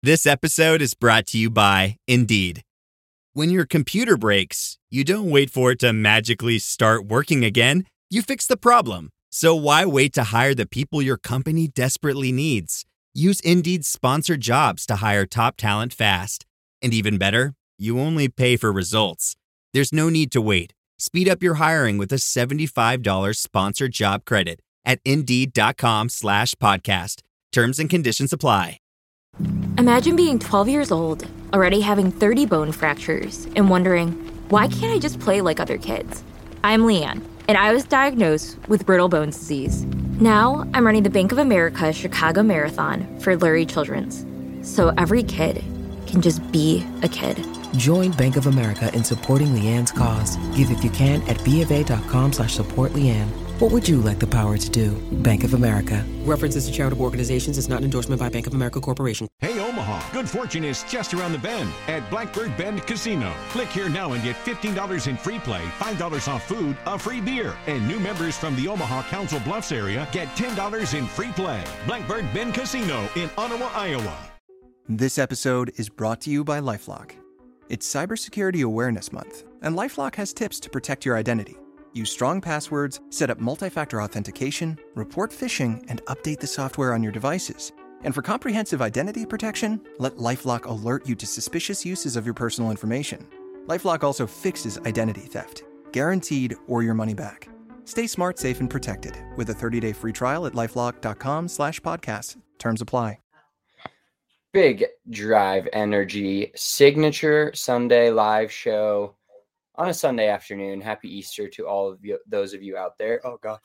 This episode is brought to you by Indeed. When your computer breaks, you don't wait for it to magically start working again. You fix the problem. So why wait to hire the people your company desperately needs? Use Indeed's sponsored jobs to hire top talent fast. And even better, you only pay for results. There's no need to wait. Speed up your hiring with a $75 sponsored job credit at Indeed.com/podcast. Terms and conditions apply. Imagine being 12 years old, already having 30 bone fractures, and wondering, why can't I just play like other kids? I'm Leanne, and I was diagnosed with brittle bones disease. Now, I'm running the Bank of America Chicago Marathon for Lurie Children's, so every kid can just be a kid. Join Bank of America in supporting Leanne's cause. Give if you can at BofA.com/supportLeanne. What would you like the power to do? Bank of America. References to charitable organizations is not an endorsement by Bank of America Corporation. Hey, Omaha, good fortune is just around the bend at Blackbird Bend Casino. Click here now and get $15 in free play, $5 off food, a free beer. And new members from the Omaha Council Bluffs area get $10 in free play. Blackbird Bend Casino in Ottawa, Iowa. This episode is brought to you by LifeLock. It's Cybersecurity Awareness Month, and LifeLock has tips to protect your identity. Use strong passwords, set up multi-factor authentication, report phishing, and update the software on your devices. And for comprehensive identity protection, let LifeLock alert you to suspicious uses of your personal information. LifeLock also fixes identity theft, guaranteed or your money back. Stay smart, safe, and protected with a 30-day free trial at LifeLock.com/podcast. Terms apply. Big Drive Energy signature Sunday live show on a Sunday afternoon. Happy Easter to all of you, those of you out there. Oh, God.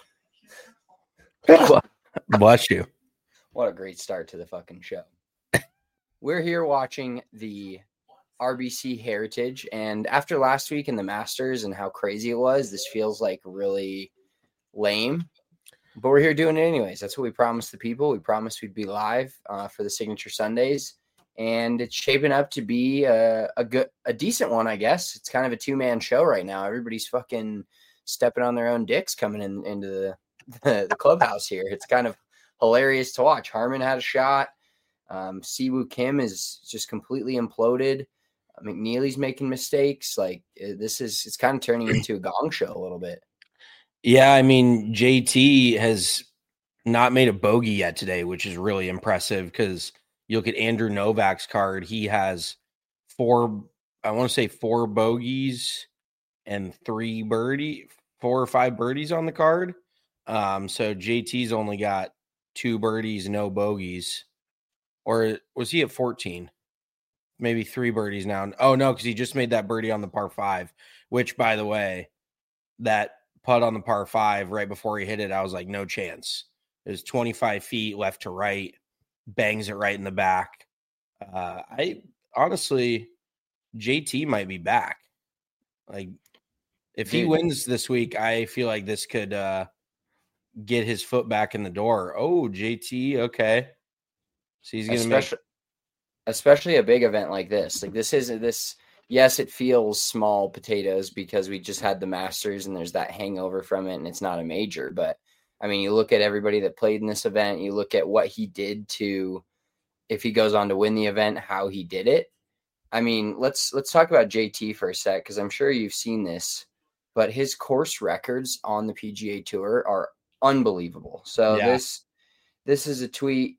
Bless you. What a great start to the fucking show. We're here watching the RBC Heritage, and after last week in the Masters and how crazy it was, this feels like really lame. But we're here doing it anyways. That's what we promised the people. We promised we'd be live for the Signature Sundays. And it's shaping up to be a decent one, I guess. It's kind of a two-man show right now. Everybody's fucking stepping on their own dicks coming into the clubhouse here. It's kind of hilarious to watch. Harman had a shot. Siwoo Kim is just completely imploded. McNeely's making mistakes. Like it's kind of turning into a gong show a little bit. Yeah, I mean, JT has not made a bogey yet today, which is really impressive because you look at Andrew Novak's card. He has four bogeys and 4 or 5 birdies on the card. So JT's only got 2 birdies, no bogeys. Or was he at 14? Maybe 3 birdies now. Oh, no, because he just made that birdie on the par 5, which, by the way, that putt on the par 5 right before he hit it, I was like, no chance. It was 25 feet left to right, bangs it right in the back. I honestly, JT might be back. Like, if he wins this week, I feel like this could get his foot back in the door. Oh, JT, okay. So he's going to especially a big event like this. Like this isn't this. Yes, it feels small potatoes because we just had the Masters and there's that hangover from it and it's not a major. But I mean, you look at everybody that played in this event, you look at what he did to, if he goes on to win the event, how he did it. I mean, let's talk about JT for a sec, because I'm sure you've seen this, but his course records on the PGA Tour are unbelievable. So yeah. This is a tweet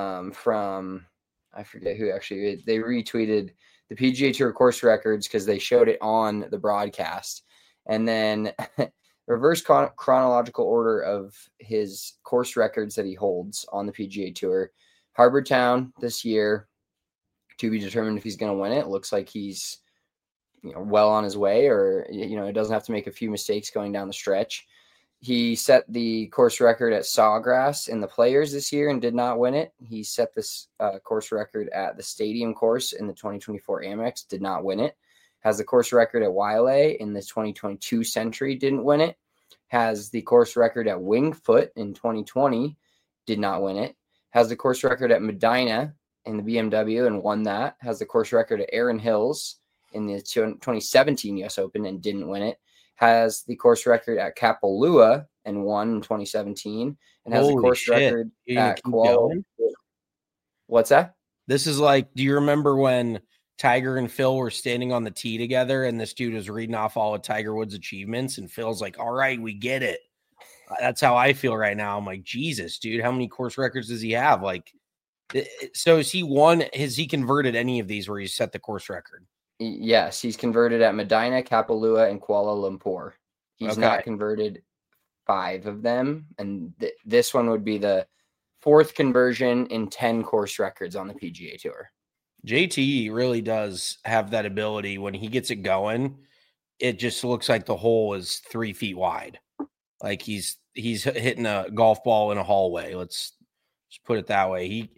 from, I forget who actually, they retweeted the PGA Tour course records because they showed it on the broadcast. And then reverse chronological order of his course records that he holds on the PGA Tour. Harbour Town this year, to be determined if he's going to win it. Looks like he's well on his way, or it doesn't have to make a few mistakes going down the stretch. He set the course record at Sawgrass in the Players this year and did not win it. He set this course record at the Stadium course in the 2024 Amex, did not win it. Has the course record at Wailea in the 2022 Century, didn't win it. Has the course record at Wingfoot in 2020, did not win it. Has the course record at Medina in the BMW and won that. Has the course record at Erin Hills in the 2017 US Open and didn't win it. Has the course record at Kapalua and won in 2017, and has the course record at Kuala. What's that? This is like, do you remember when Tiger and Phil were standing on the tee together and this dude was reading off all of Tiger Woods' achievements and Phil's like, all right, we get it. That's how I feel right now. I'm like, Jesus, dude, how many course records does he have? Like, so has he converted any of these where he's set the course record? Yes, he's converted at Medina, Kapalua, and Kuala Lumpur. He's not converted 5 of them. And this one would be the 4th conversion in 10 course records on the PGA Tour. JT really does have that ability. When he gets it going, it just looks like the hole is 3 feet wide. Like he's hitting a golf ball in a hallway. Let's just put it that way.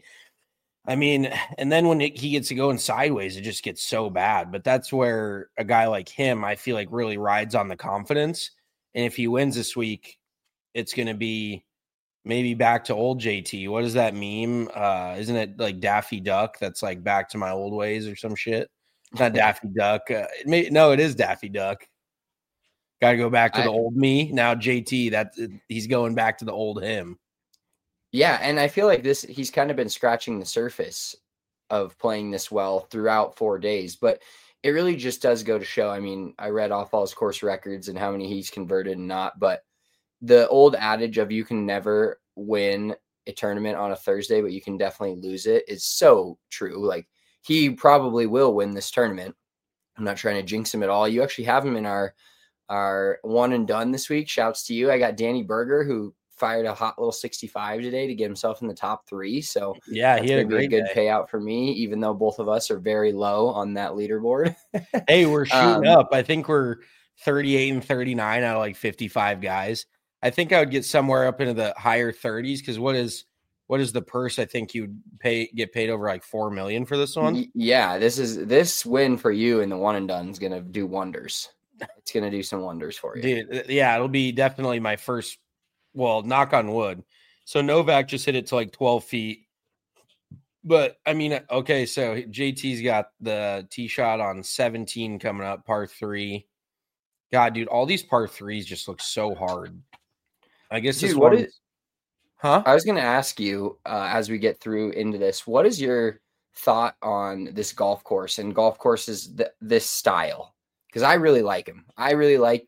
And then when he gets to going sideways, it just gets so bad. But that's where a guy like him, I feel like, really rides on the confidence. And if he wins this week, it's going to be maybe back to old JT. What is that meme? Isn't it like Daffy Duck? That's like back to my old ways or some shit. Not Daffy Duck. No, it is Daffy Duck. Got to go back to the old me. Now JT, he's going back to the old him. Yeah, and I feel like he's kind of been scratching the surface of playing this well throughout 4 days, but it really just does go to show. I mean, I read off all his course records and how many he's converted and not, but the old adage of you can never win a tournament on a Thursday, but you can definitely lose it is so true. Like, he probably will win this tournament. I'm not trying to jinx him at all. You actually have him in our one and done this week. Shouts to you. I got Danny Berger, who fired a hot little 65 today to get himself in the top 3. So yeah, he had a good payout for me, even though both of us are very low on that leaderboard. Hey, we're shooting up. I think we're 38 and 39 out of like 55 guys. I think I would get somewhere up into the higher 30s because what is the purse? I think you'd get paid over like $4 million for this one. Yeah, this win for you in the one and done is gonna do wonders. It's gonna do some wonders for you, dude. Yeah, it'll be definitely my first. Well, knock on wood. So Novak just hit it to like 12 feet. But I mean, okay, so JT's got the tee shot on 17 coming up, par 3. God, dude, all these par 3s just look so hard. I guess this one. I was going to ask you as we get through into this, what is your thought on this golf course and golf courses this style? Because I really like them. I really like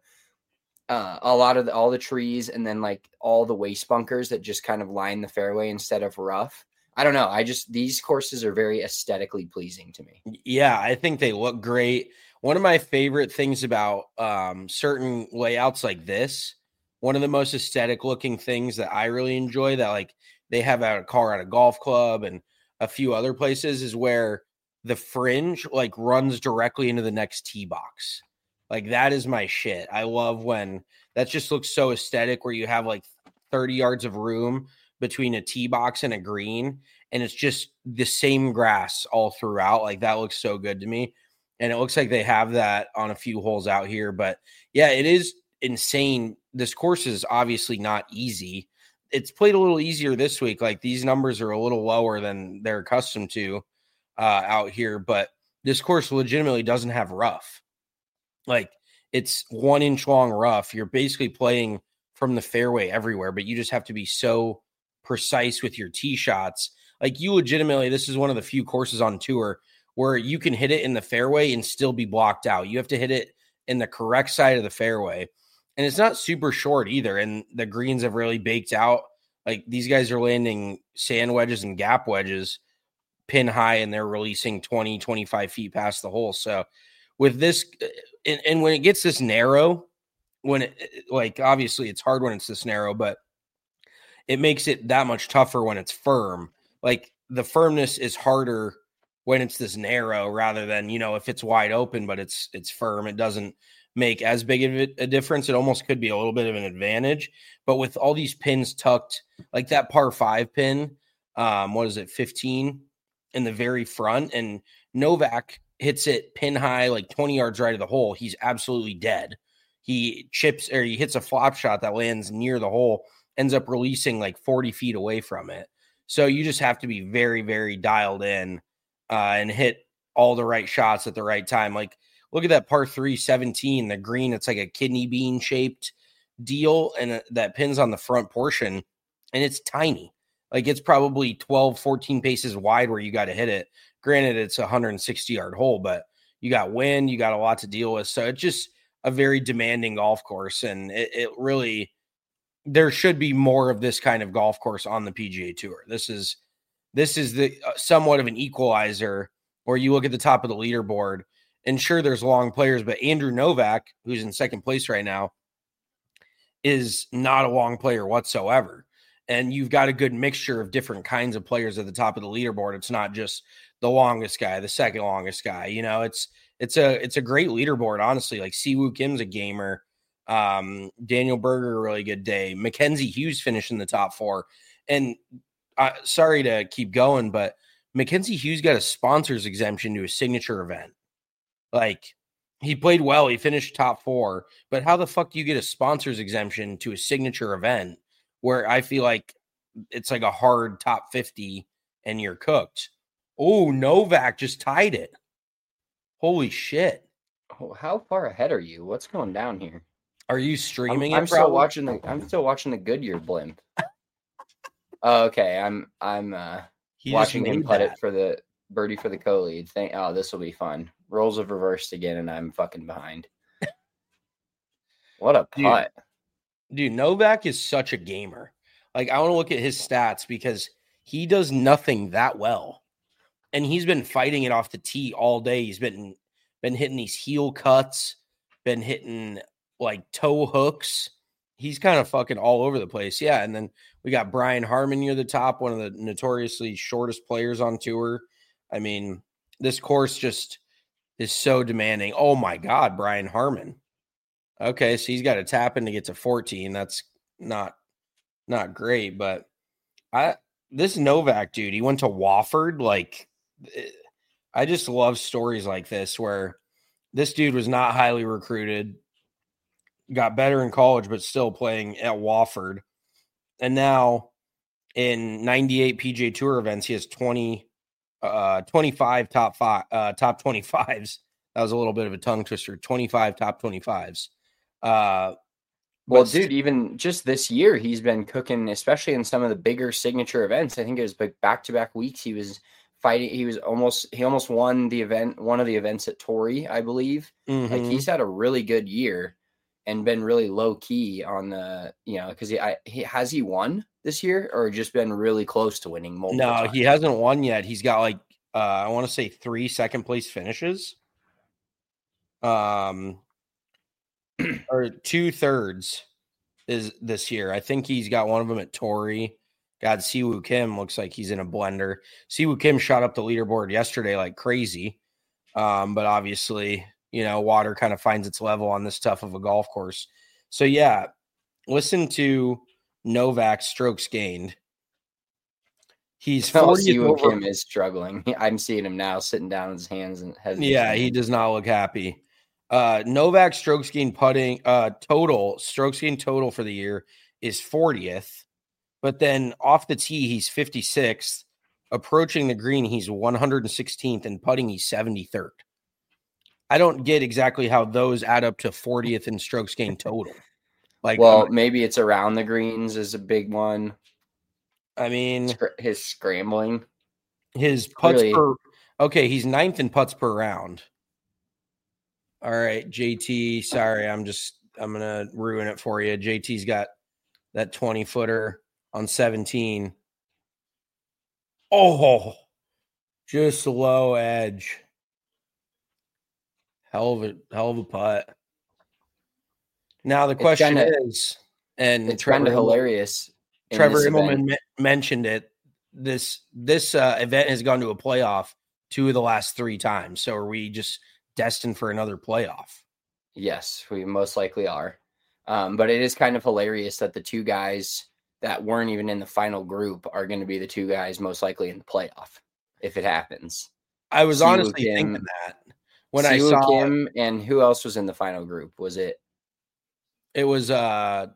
all the trees and then like all the waste bunkers that just kind of line the fairway instead of rough. I don't know. These courses are very aesthetically pleasing to me. Yeah, I think they look great. One of my favorite things about certain layouts like this, one of the most aesthetic looking things that I really enjoy that like they have at a Colorado Golf Club and a few other places is where the fringe like runs directly into the next tee box. Like that is my shit. I love when that just looks so aesthetic where you have like 30 yards of room between a tee box and a green and it's just the same grass all throughout. Like that looks so good to me. And it looks like they have that on a few holes out here, but yeah, it is insane. This course is obviously not easy. It's played a little easier this week. Like these numbers are a little lower than they're accustomed to out here, but this course legitimately doesn't have rough. Like it's 1 inch long rough. You're basically playing from the fairway everywhere, but you just have to be so precise with your tee shots. Like you legitimately, this is one of the few courses on tour where you can hit it in the fairway and still be blocked out. You have to hit it in the correct side of the fairway. And it's not super short either. And the greens have really baked out. Like these guys are landing sand wedges and gap wedges pin high, and they're releasing 20, 25 feet past the hole. So with this, and when it gets this narrow, like obviously it's hard when it's this narrow, but it makes it that much tougher when it's firm. Like the firmness is harder when it's this narrow rather than, if it's wide open, but it's firm. It doesn't make as big of a difference. It almost could be a little bit of an advantage, but with all these pins tucked, like that par 5 pin, 15 in the very front, and Novak hits it pin high, like 20 yards right of the hole. He's absolutely dead. He hits a flop shot that lands near the hole, ends up releasing like 40 feet away from it. So you just have to be very, very dialed in and hit all the right shots at the right time. Like, look at that par 3 17, the green. It's like a kidney bean shaped deal, and that pins on the front portion, and it's tiny. Like it's probably 12, 14 paces wide where you got to hit it. Granted, it's a 160-yard hole, but you got wind, you got a lot to deal with. So it's just a very demanding golf course. And it really, there should be more of this kind of golf course on the PGA Tour. This is the somewhat of an equalizer where you look at the top of the leaderboard and sure, there's long players, but Andrew Novak, who's in second place right now, is not a long player whatsoever. And you've got a good mixture of different kinds of players at the top of the leaderboard. It's not just the longest guy, the second longest guy. You know, it's a great leaderboard, honestly. Like Siwoo Kim's a gamer. Daniel Berger, a really good day. Mackenzie Hughes finished in the top 4. And sorry to keep going, but Mackenzie Hughes got a sponsors exemption to a signature event. Like, he played well. He finished top 4. But how the fuck do you get a sponsors exemption to a signature event where I feel like it's like a hard top 50 and you're cooked? Oh, Novak just tied it. Holy shit. Oh, how far ahead are you? What's going down here? Are you streaming I'm still watching the Goodyear blimp. Oh, okay. I'm watching him putt it for the birdie for the co-lead. This will be fun. Roles have reversed again, and I'm fucking behind. What a putt. Dude, Novak is such a gamer. Like, I want to look at his stats because he does nothing that well. And he's been fighting it off the tee all day. He's been hitting these heel cuts, been hitting like toe hooks. He's kind of fucking all over the place. Yeah. And then we got Brian Harman near the top, one of the notoriously shortest players on tour. I mean, this course just is so demanding. Oh my God, Brian Harman. Okay, so he's got to tap in to get to 14. That's not great, but this Novak dude, he went to Wofford. Like, I just love stories like this where this dude was not highly recruited, got better in college, but still playing at Wofford. And now in 98 PGA Tour events, he has 25 top 25s. That was a little bit of a tongue twister. 25 top 25s. Well, dude, even just this year, he's been cooking, especially in some of the bigger signature events. I think it was like back-to-back weeks. He was fighting. He almost won the event, one of the events at Torrey, I believe. Mm-hmm. Like, he's had a really good year and been really low key on the, because has he won this year or just been really close to winning multiple times? He hasn't won yet. He's got like, I want to say 3 second place finishes. Or 2/3 is this year. I think he's got one of them at Torrey. God, Siwoo Kim looks like he's in a blender. Siwoo Kim shot up the leaderboard yesterday like crazy. But obviously, water kind of finds its level on this tough of a golf course. So yeah, listen to Novak's strokes gained. He's 40th Siwoo Kim is struggling. I'm seeing him now sitting down on his hands and head. Yeah, he does not look happy. Novak strokes gained putting strokes gained total for the year is 40th, but then off the tee he's 56th, approaching the green he's 116th, and putting he's 73rd. I don't get exactly how those add up to 40th in strokes gained total. Like, well, maybe it's around the greens is a big one. I mean, his scrambling, his putts per. Okay, he's 9th in putts per round. All right, JT, sorry, I'm going to ruin it for you. JT's got that 20-footer on 17. Oh, just low edge. Hell of a putt. Now the question is, and it's kind of hilarious. Trevor Immelman mentioned it. This event has gone to a playoff 2 of the last 3 times. So are we just destined for another playoff? Yes, we most likely are. But it is kind of hilarious that the 2 guys that weren't even in the final group are going to be the 2 guys most likely in the playoff if it happens. I was honestly thinking that when I saw Kim, and who else was in the final group? Was it? It was Maverick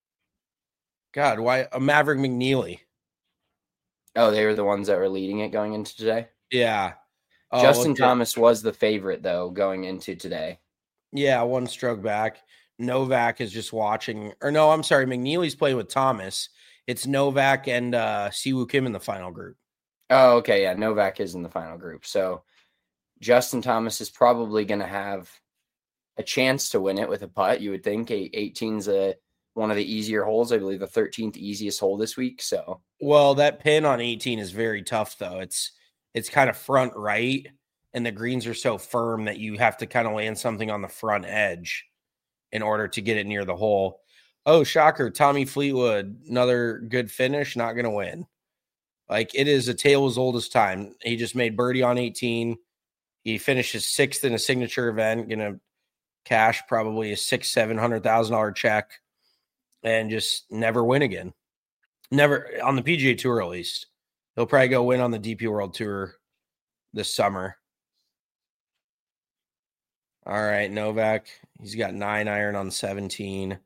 McNeely. Oh, they were the ones that were leading it going into today? Yeah. Justin Thomas was the favorite, though, going into today. Yeah, 1 stroke back. Novak is just watching. Or no, I'm sorry. McNeely's playing with Thomas, It's Novak and Siwoo Kim in the final group. Oh, okay. Yeah, Novak is in the final group. So Justin Thomas is probably going to have a chance to win it with a putt. You would think 18's one of the easier holes. I believe the 13th easiest hole this week. So, well, that pin on 18 is very tough though. It's kind of front right, and the greens are so firm that you have to kind of land something on the front edge in order to get it near the hole. Oh, shocker. Tommy Fleetwood, another good finish, not going to win. Like, it is a tale as old as time. He just made birdie on 18. He finished his 6th in a signature event, going to cash probably a $600,000-$700,000 check and just never win again. Never on the PGA Tour, at least. He'll probably go win on the DP World Tour this summer. All right, Novak. He's got 9 iron on 17.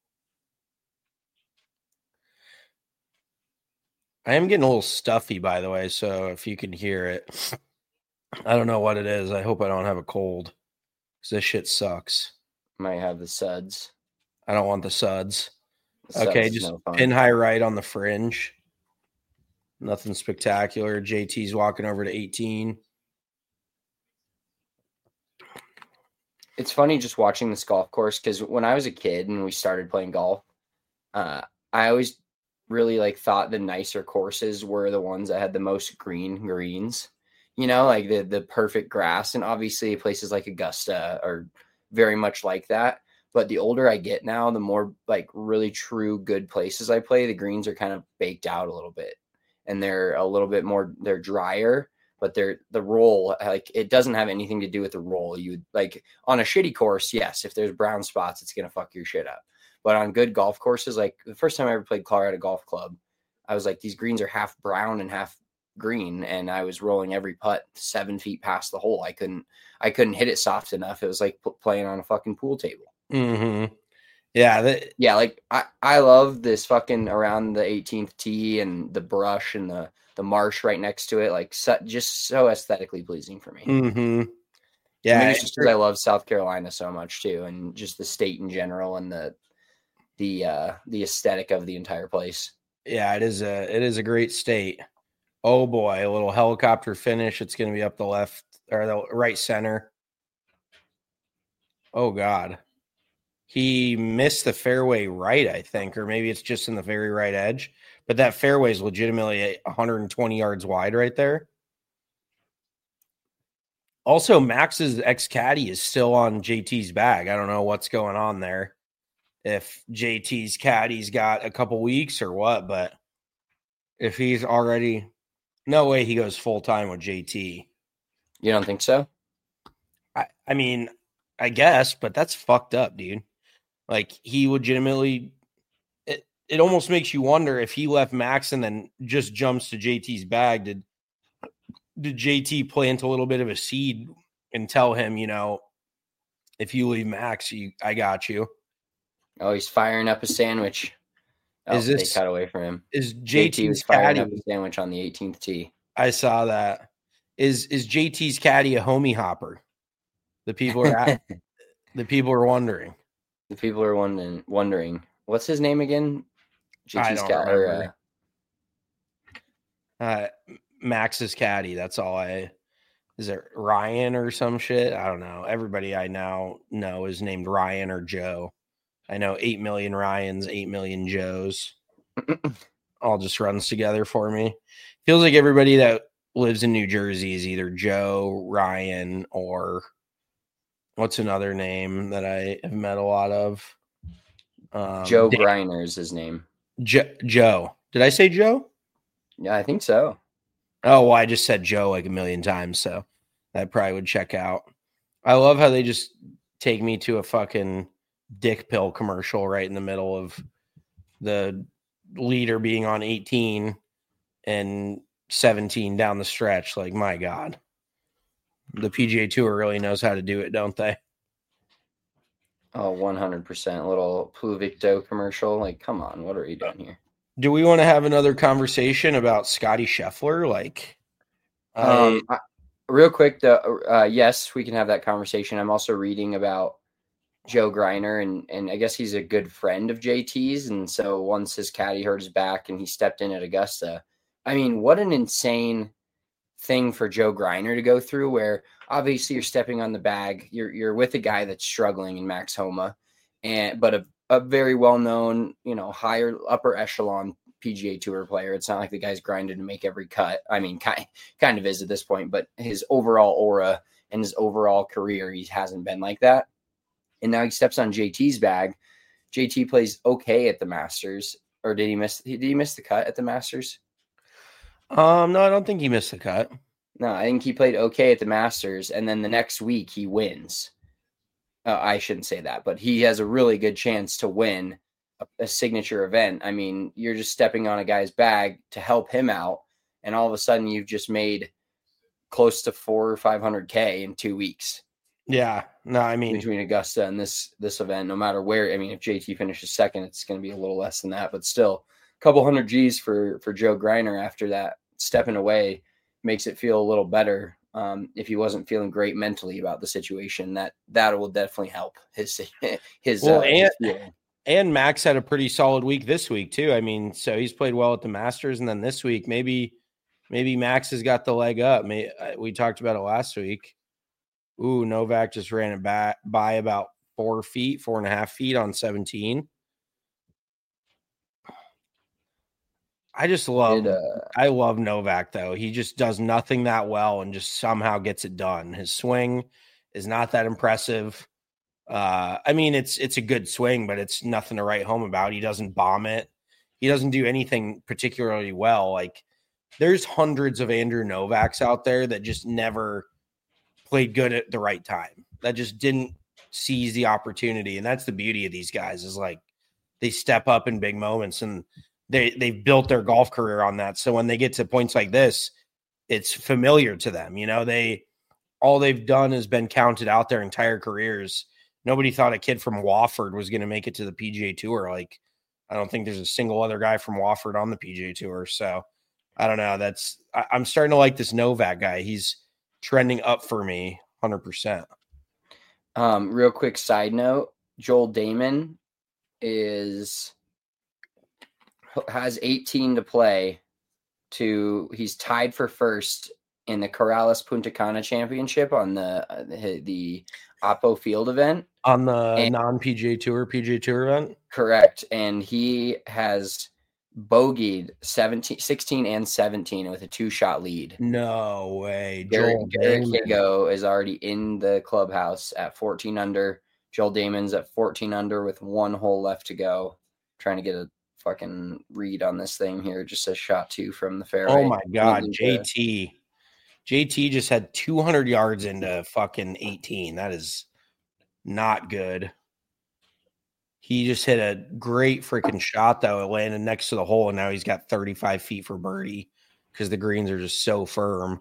I am getting a little stuffy, by the way, so if you can hear it, I don't know what it is. I hope I don't have a cold because this shit sucks. Might have the suds. I don't want the suds. The okay, suds just no fun. pin high right on the fringe. Nothing spectacular. JT's walking over to 18. It's funny just watching this golf course because when I was a kid and we started playing golf, I always really thought the nicer courses were the ones that had the most greens, like the perfect grass. And obviously places like Augusta are very much like that. But the older I get now, the more really true good places I play, the greens are kind of baked out a little bit and they're a little bit more, they're drier, but the roll, it doesn't have anything to do with the roll. You on a shitty course. Yes. If there's brown spots, it's going to fuck your shit up. But on good golf courses, the first time I ever played Colorado Golf Club, I was these greens are half brown and half green, and I was rolling every putt 7 feet past the hole. I couldn't hit it soft enough. It was like playing on a fucking pool table. Mm-hmm. Yeah. I love this fucking around the 18th tee and the brush and the marsh right next to it. Just so aesthetically pleasing for me. Mm-hmm. Yeah. Maybe it's just because I love South Carolina so much too, and just the state in general and the aesthetic of the entire place. Yeah, it is a great state. Oh boy, a little helicopter finish. It's going to be up the left or the right center. Oh God. He missed the fairway right, I think, or maybe it's just in the very right edge, but that fairway is legitimately 120 yards wide right there. Also, Max's ex-caddy is still on JT's bag. I don't know what's going on there. If JT's caddy's got a couple weeks or what, but if he's already, no way he goes full time with JT. You don't think so? I mean, I guess, but that's fucked up, dude. He legitimately, it almost makes you wonder if he left Max and then just jumps to JT's bag. Did JT plant a little bit of a seed and tell him, if you leave Max, I got you. Oh, he's firing up a sandwich. Oh, they cut away from him. Is JT was firing up a sandwich on the 18th tee? I saw that. Is JT's caddy a homie hopper? The people are the people are wondering. The people are wondering. What's his name again? JT's caddy. Max's caddy. That's all is it Ryan or some shit? I don't know. Everybody I now know is named Ryan or Joe. I know 8 million Ryans, 8 million Joes. All just runs together for me. Feels like everybody that lives in New Jersey is either Joe, Ryan, or what's another name that I have met a lot of? Joe Griner is his name. Joe. Did I say Joe? Yeah, I think so. Oh, well, I just said Joe a million times, so that probably would check out. I love how they just take me to a fucking dick pill commercial right in the middle of the leader being on 18 and 17 down the stretch. My God. The PGA Tour really knows how to do it, don't they? Oh, 100%. A little Pluvicto commercial. Come on, what are you doing here? Do we want to have another conversation about Scotty Scheffler? Real quick, though, yes, we can have that conversation. I'm also reading about Joe Greiner, and I guess he's a good friend of JT's. And so once his caddy hurt his back and he stepped in at Augusta, I mean, what an insane thing for Joe Greiner to go through, where obviously you're stepping on the bag. You're with a guy that's struggling in Max Homa, but a very well-known, higher upper echelon PGA Tour player. It's not like the guy's grinding to make every cut. I mean, kind of is at this point, but his overall aura and his overall career, he hasn't been like that. And now he steps on JT's bag. JT plays okay at the Masters, or did he miss the cut at the Masters? No, I don't think he missed the cut. No, I think he played okay at the Masters, and then the next week he wins. I shouldn't say that, but he has a really good chance to win a signature event. I mean, you're just stepping on a guy's bag to help him out, and all of a sudden you've just made close to 400 or 500K in 2 weeks. Yeah, no, I mean, between Augusta and this event, no matter where. I mean, if JT finishes second, it's going to be a little less than that, but still, a couple hundred G's for Joe Greiner after that. Stepping away makes it feel a little better. If he wasn't feeling great mentally about the situation, that will definitely help his and Max had a pretty solid week this week too. I mean, so he's played well at the Masters, and then this week maybe Max has got the leg up. We talked about it last week. Ooh, Novak just ran it by about 4.5 feet on 17. I love Novak though. He just does nothing that well and just somehow gets it done. His swing is not that impressive. I mean, it's a good swing, but it's nothing to write home about. He doesn't bomb it. He doesn't do anything particularly well. Like, there's hundreds of Andrew Novaks out there that just never played good at the right time, that just didn't seize the opportunity. And that's the beauty of these guys, is like they step up in big moments, and they've built their golf career on that. So when they get to points like this, it's familiar to them. All they've done has been counted out their entire careers. Nobody thought a kid from Wofford was going to make it to the PGA Tour. Like, I don't think there's a single other guy from Wofford on the PGA Tour. So I don't know. I'm starting to like this Novak guy. He's trending up for me 100%. Real quick side note, Joel Dahmen has 18 to play he's tied for first in the Corrales Punta Cana Championship on the Oppo Field event. On the non-PGA Tour, PGA Tour event? Correct. And he has bogeyed 16 and 17 with a 2-shot lead. No way. Garrett Higo is already in the clubhouse at 14 under. Joel Dahmen's at 14 under with 1 hole left to go. Trying to get a fucking read on this thing here. Just a shot 2 from the fairway. Oh my God. JT just had 200 yards into fucking 18. That is not good. He just hit a great freaking shot, though. It landed next to the hole, and now he's got 35 feet for birdie because the greens are just so firm.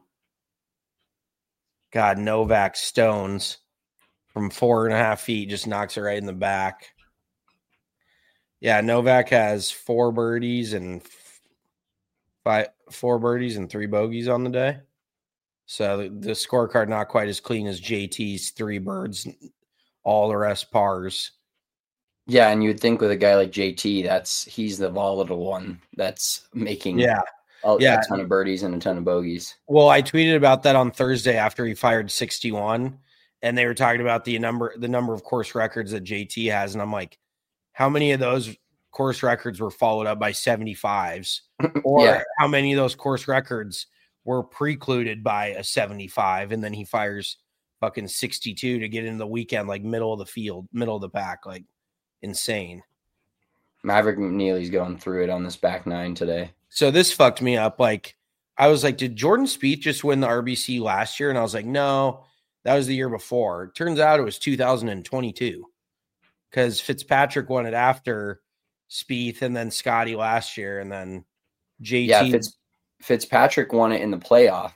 God, Novak stones from 4.5 feet, just knocks it right in the back. Yeah, Novak has 4 birdies and 3 bogeys on the day. So the scorecard not quite as clean as JT's 3 birds, all the rest pars. Yeah, and you would think with a guy like JT, he's the volatile one that's making a ton of birdies and a ton of bogeys. Well, I tweeted about that on Thursday after he fired 61, and they were talking about the number of course records that JT has, and I'm like, how many of those course records were followed up by 75s? Or how many of those course records were precluded by a 75, and then he fires fucking 62 to get into the weekend, like middle of the field, middle of the pack, like insane. Maverick McNeely's going through it on this back 9 today. So this fucked me up. Like, I was like, did Jordan Spieth just win the RBC last year? And I was like, no, that was the year before. It turns out it was 2022 because Fitzpatrick won it after Spieth, and then Scotty last year, and then JT. Yeah, Fitzpatrick won it in the playoff.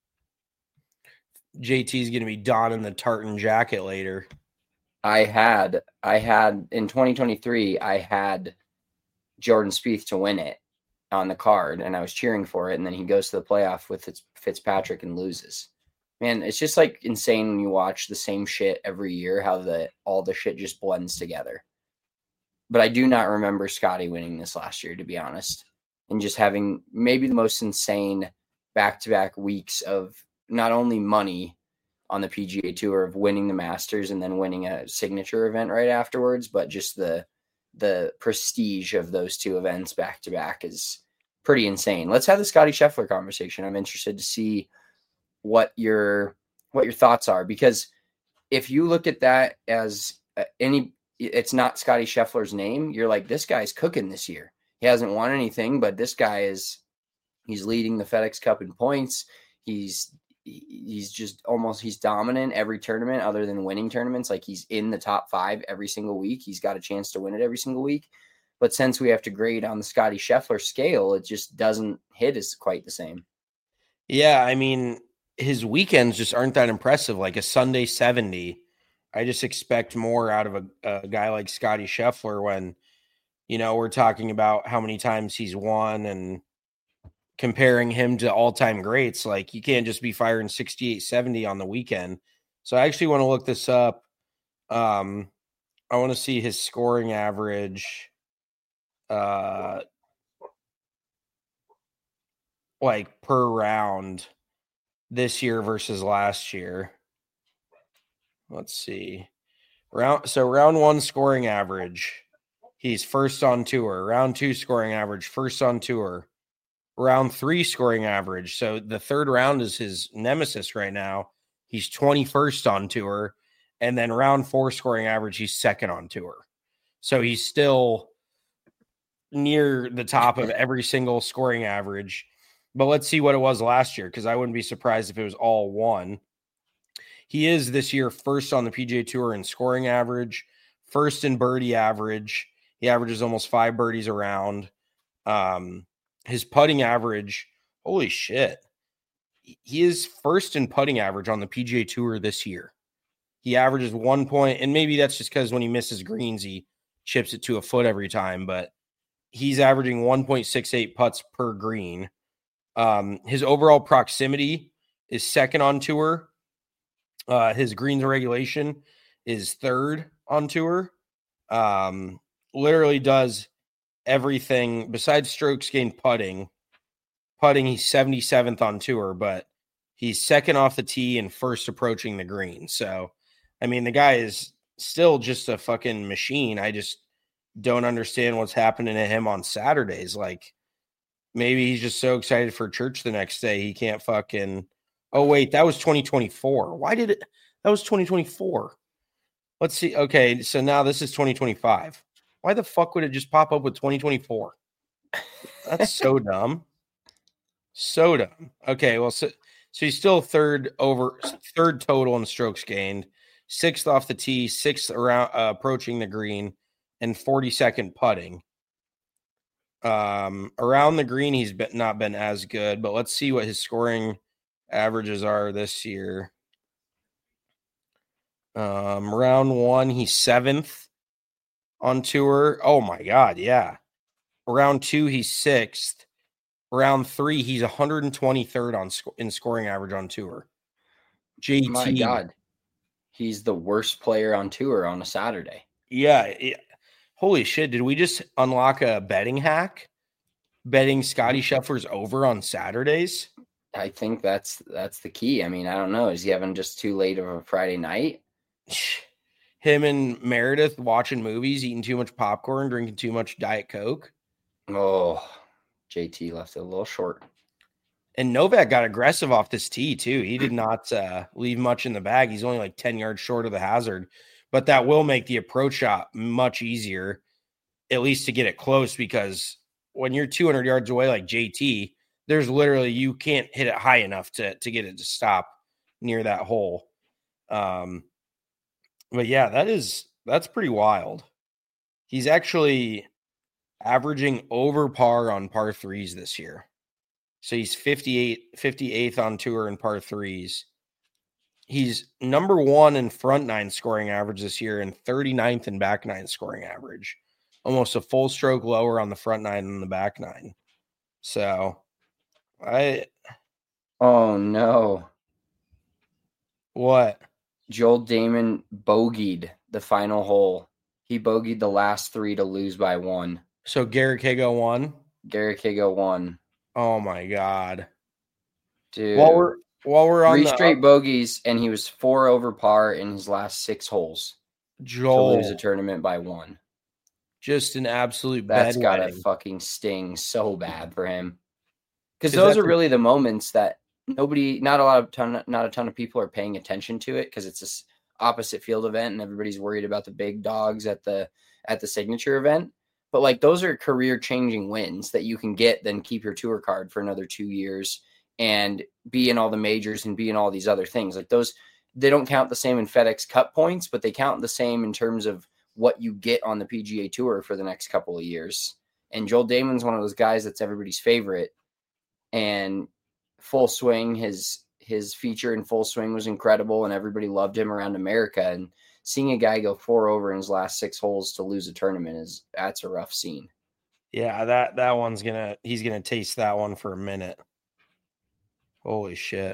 JT's going to be donning the tartan jacket later. I had in 2023, I had Jordan Spieth to win it on the card, and I was cheering for it. And then he goes to the playoff with Fitzpatrick and loses. Man, it's just like insane when you watch the same shit every year, how all the shit just blends together. But I do not remember Scotty winning this last year, to be honest, and just having maybe the most insane back-to-back weeks of not only money on the PGA Tour of winning the Masters and then winning a signature event right afterwards, but just the prestige of those two events back-to-back is pretty insane. Let's have the Scotty Scheffler conversation. I'm interested to see what your thoughts are, because if you look at that as it's not Scotty Scheffler's name, you're like, this guy's cooking this year. He hasn't won anything, but this guy he's leading the FedEx Cup in points. He's dominant every tournament other than winning tournaments. Like, he's in the top 5 every single week. He's got a chance to win it every single week. But since we have to grade on the Scotty Scheffler scale, it just doesn't hit as quite the same. Yeah, I mean, his weekends just aren't that impressive. Like a Sunday 70, I just expect more out of a guy like Scotty Scheffler when, we're talking about how many times he's won and comparing him to all-time greats. Like, you can't just be firing 68, 70 on the weekend. So I actually want to look this up. I want to see his scoring average. Like per round this year versus last year. Let's see. Round 1 scoring average, he's first on tour. Round 2 scoring average, first on tour. Round 3 scoring average. So the third round is his nemesis right now. He's 21st on tour. And then round 4 scoring average, he's second on tour. So he's still near the top of every single scoring average. But let's see what it was last year, because I wouldn't be surprised if it was all 1. He is this year first on the PGA Tour in scoring average, first in birdie average. He averages almost 5 birdies a round. His putting average, holy shit. He is first in putting average on the PGA Tour this year. He averages 1 point, and maybe that's just because when he misses greens, he chips it to a foot every time, but he's averaging 1.68 putts per green. His overall proximity is second on tour. His greens regulation is third on tour. Literally does everything besides strokes gained putting. Putting, he's 77th on tour, but he's second off the tee and first approaching the green. So, I mean, the guy is still just a fucking machine. I just don't understand what's happening to him on Saturdays. Like, maybe he's just so excited for church the next day he can't fucking. Oh, wait, that was 2024. That was 2024. Let's see. Okay, so now this is 2025. Why the fuck would it just pop up with 2024? That's so dumb. So dumb. Okay, well, so he's still third total in strokes gained, 6th off the tee, 6th around approaching the green, and 42nd putting. Around the green, he's not been as good, but let's see what his scoring averages are this year. Round 1, he's 7th on tour. Oh my God, yeah. Round 2, he's 6th. Round 3, he's 123rd in scoring average on tour. JT. My God. He's the worst player on tour on a Saturday. Yeah. Holy shit. Did we just unlock a betting hack? Betting Scotty Scheffler's over on Saturdays? I think that's the key. I mean, I don't know. Is he having just too late of a Friday night? Him and Meredith watching movies, eating too much popcorn, drinking too much Diet Coke. Oh, JT left it a little short. And Novak got aggressive off this tee, too. He did not leave much in the bag. He's only like 10 yards short of the hazard. But that will make the approach shot much easier, at least to get it close, because when you're 200 yards away like JT, there's literally, you can't hit it high enough to get it to stop near that hole. But yeah, that's pretty wild. He's actually averaging over par on par 3s this year. So he's 58th on tour in par 3s. He's number 1 in front 9 scoring average this year and 39th in back 9 scoring average. Almost a full stroke lower on the front 9 than the back 9. So, oh no. What? Joel Dahmen bogeyed the final hole. He bogeyed the last 3 to lose by 1. So Garrett Higo won? Garrett Higo won. Oh my God. Dude. While we're on 3 the straight bogeys, and he was 4 over par in his last 6 holes. Joel, to lose a tournament by 1. Just an absolute That's bedwetting. gotta fucking sting so bad for him. Because those are really the moments that not a ton of people are paying attention to it, because it's this opposite field event and everybody's worried about the big dogs at the signature event. But like, those are career changing wins that you can get, then keep your tour card for another 2 years and be in all the majors and be in all these other things. Like, those, they don't count the same in FedEx Cup points, but they count the same in terms of what you get on the PGA Tour for the next couple of years. And Joel Dahmen's one of those guys that's everybody's favorite. And Full Swing, his feature in Full Swing was incredible, and everybody loved him around America. And seeing a guy go 4 over in his last 6 holes to lose a tournament that's a rough scene. Yeah, that one's he's gonna taste that one for a minute. Holy shit.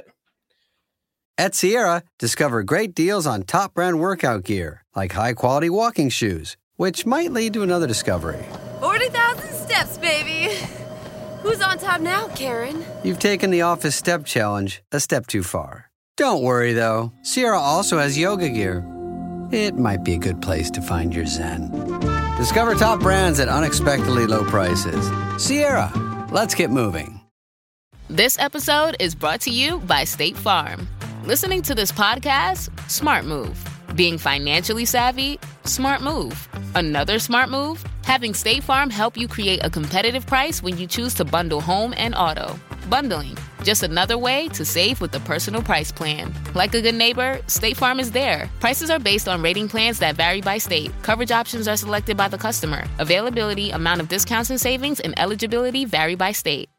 At Sierra, discover great deals on top brand workout gear, like high-quality walking shoes, which might lead to another discovery. 40,000 steps, baby. Who's on top now, Karen? You've taken the office step challenge a step too far. Don't worry, though. Sierra also has yoga gear. It might be a good place to find your zen. Discover top brands at unexpectedly low prices. Sierra, let's get moving. This episode is brought to you by State Farm. Listening to this podcast? Smart move. Being financially savvy? Smart move. Another smart move? Having State Farm help you create a competitive price when you choose to bundle home and auto. Bundling, just another way to save with the Personal Price Plan. Like a good neighbor, State Farm is there. Prices are based on rating plans that vary by state. Coverage options are selected by the customer. Availability, amount of discounts and savings, and eligibility vary by state.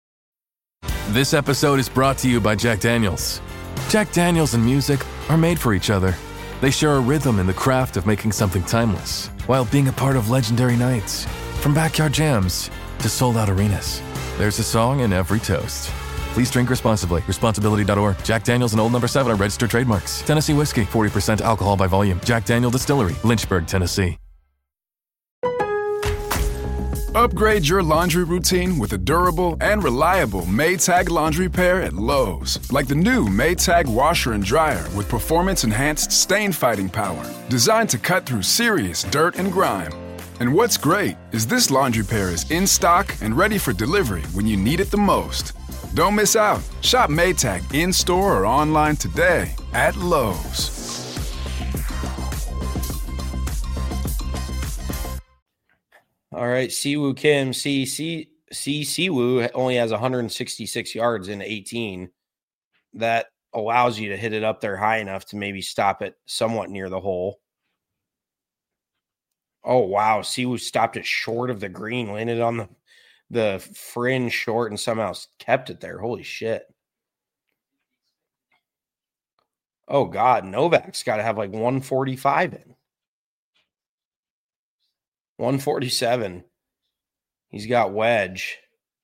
This episode is brought to you by Jack Daniels. Jack Daniels and music are made for each other. They share a rhythm in the craft of making something timeless, while being a part of legendary nights. From backyard jams to sold-out arenas, there's a song in every toast. Please drink responsibly. Responsibility.org. Jack Daniels and Old No. 7 are registered trademarks. Tennessee whiskey, 40% alcohol by volume. Jack Daniel Distillery, Lynchburg, Tennessee. Upgrade your laundry routine with a durable and reliable Maytag laundry pair at Lowe's. Like the new Maytag washer and dryer with performance-enhanced stain-fighting power. Designed to cut through serious dirt and grime. And what's great is this laundry pair is in stock and ready for delivery when you need it the most. Don't miss out. Shop Maytag in-store or online today at Lowe's. All right, Siwoo Kim. Siwoo only has 166 yards in 18. That allows you to hit it up there high enough to maybe stop it somewhat near the hole. Oh, wow. Siwoo stopped it short of the green, landed on the fringe short, and somehow kept it there. Holy shit. Oh, God. Novak's got to have like 145 in. 147. He's got wedge.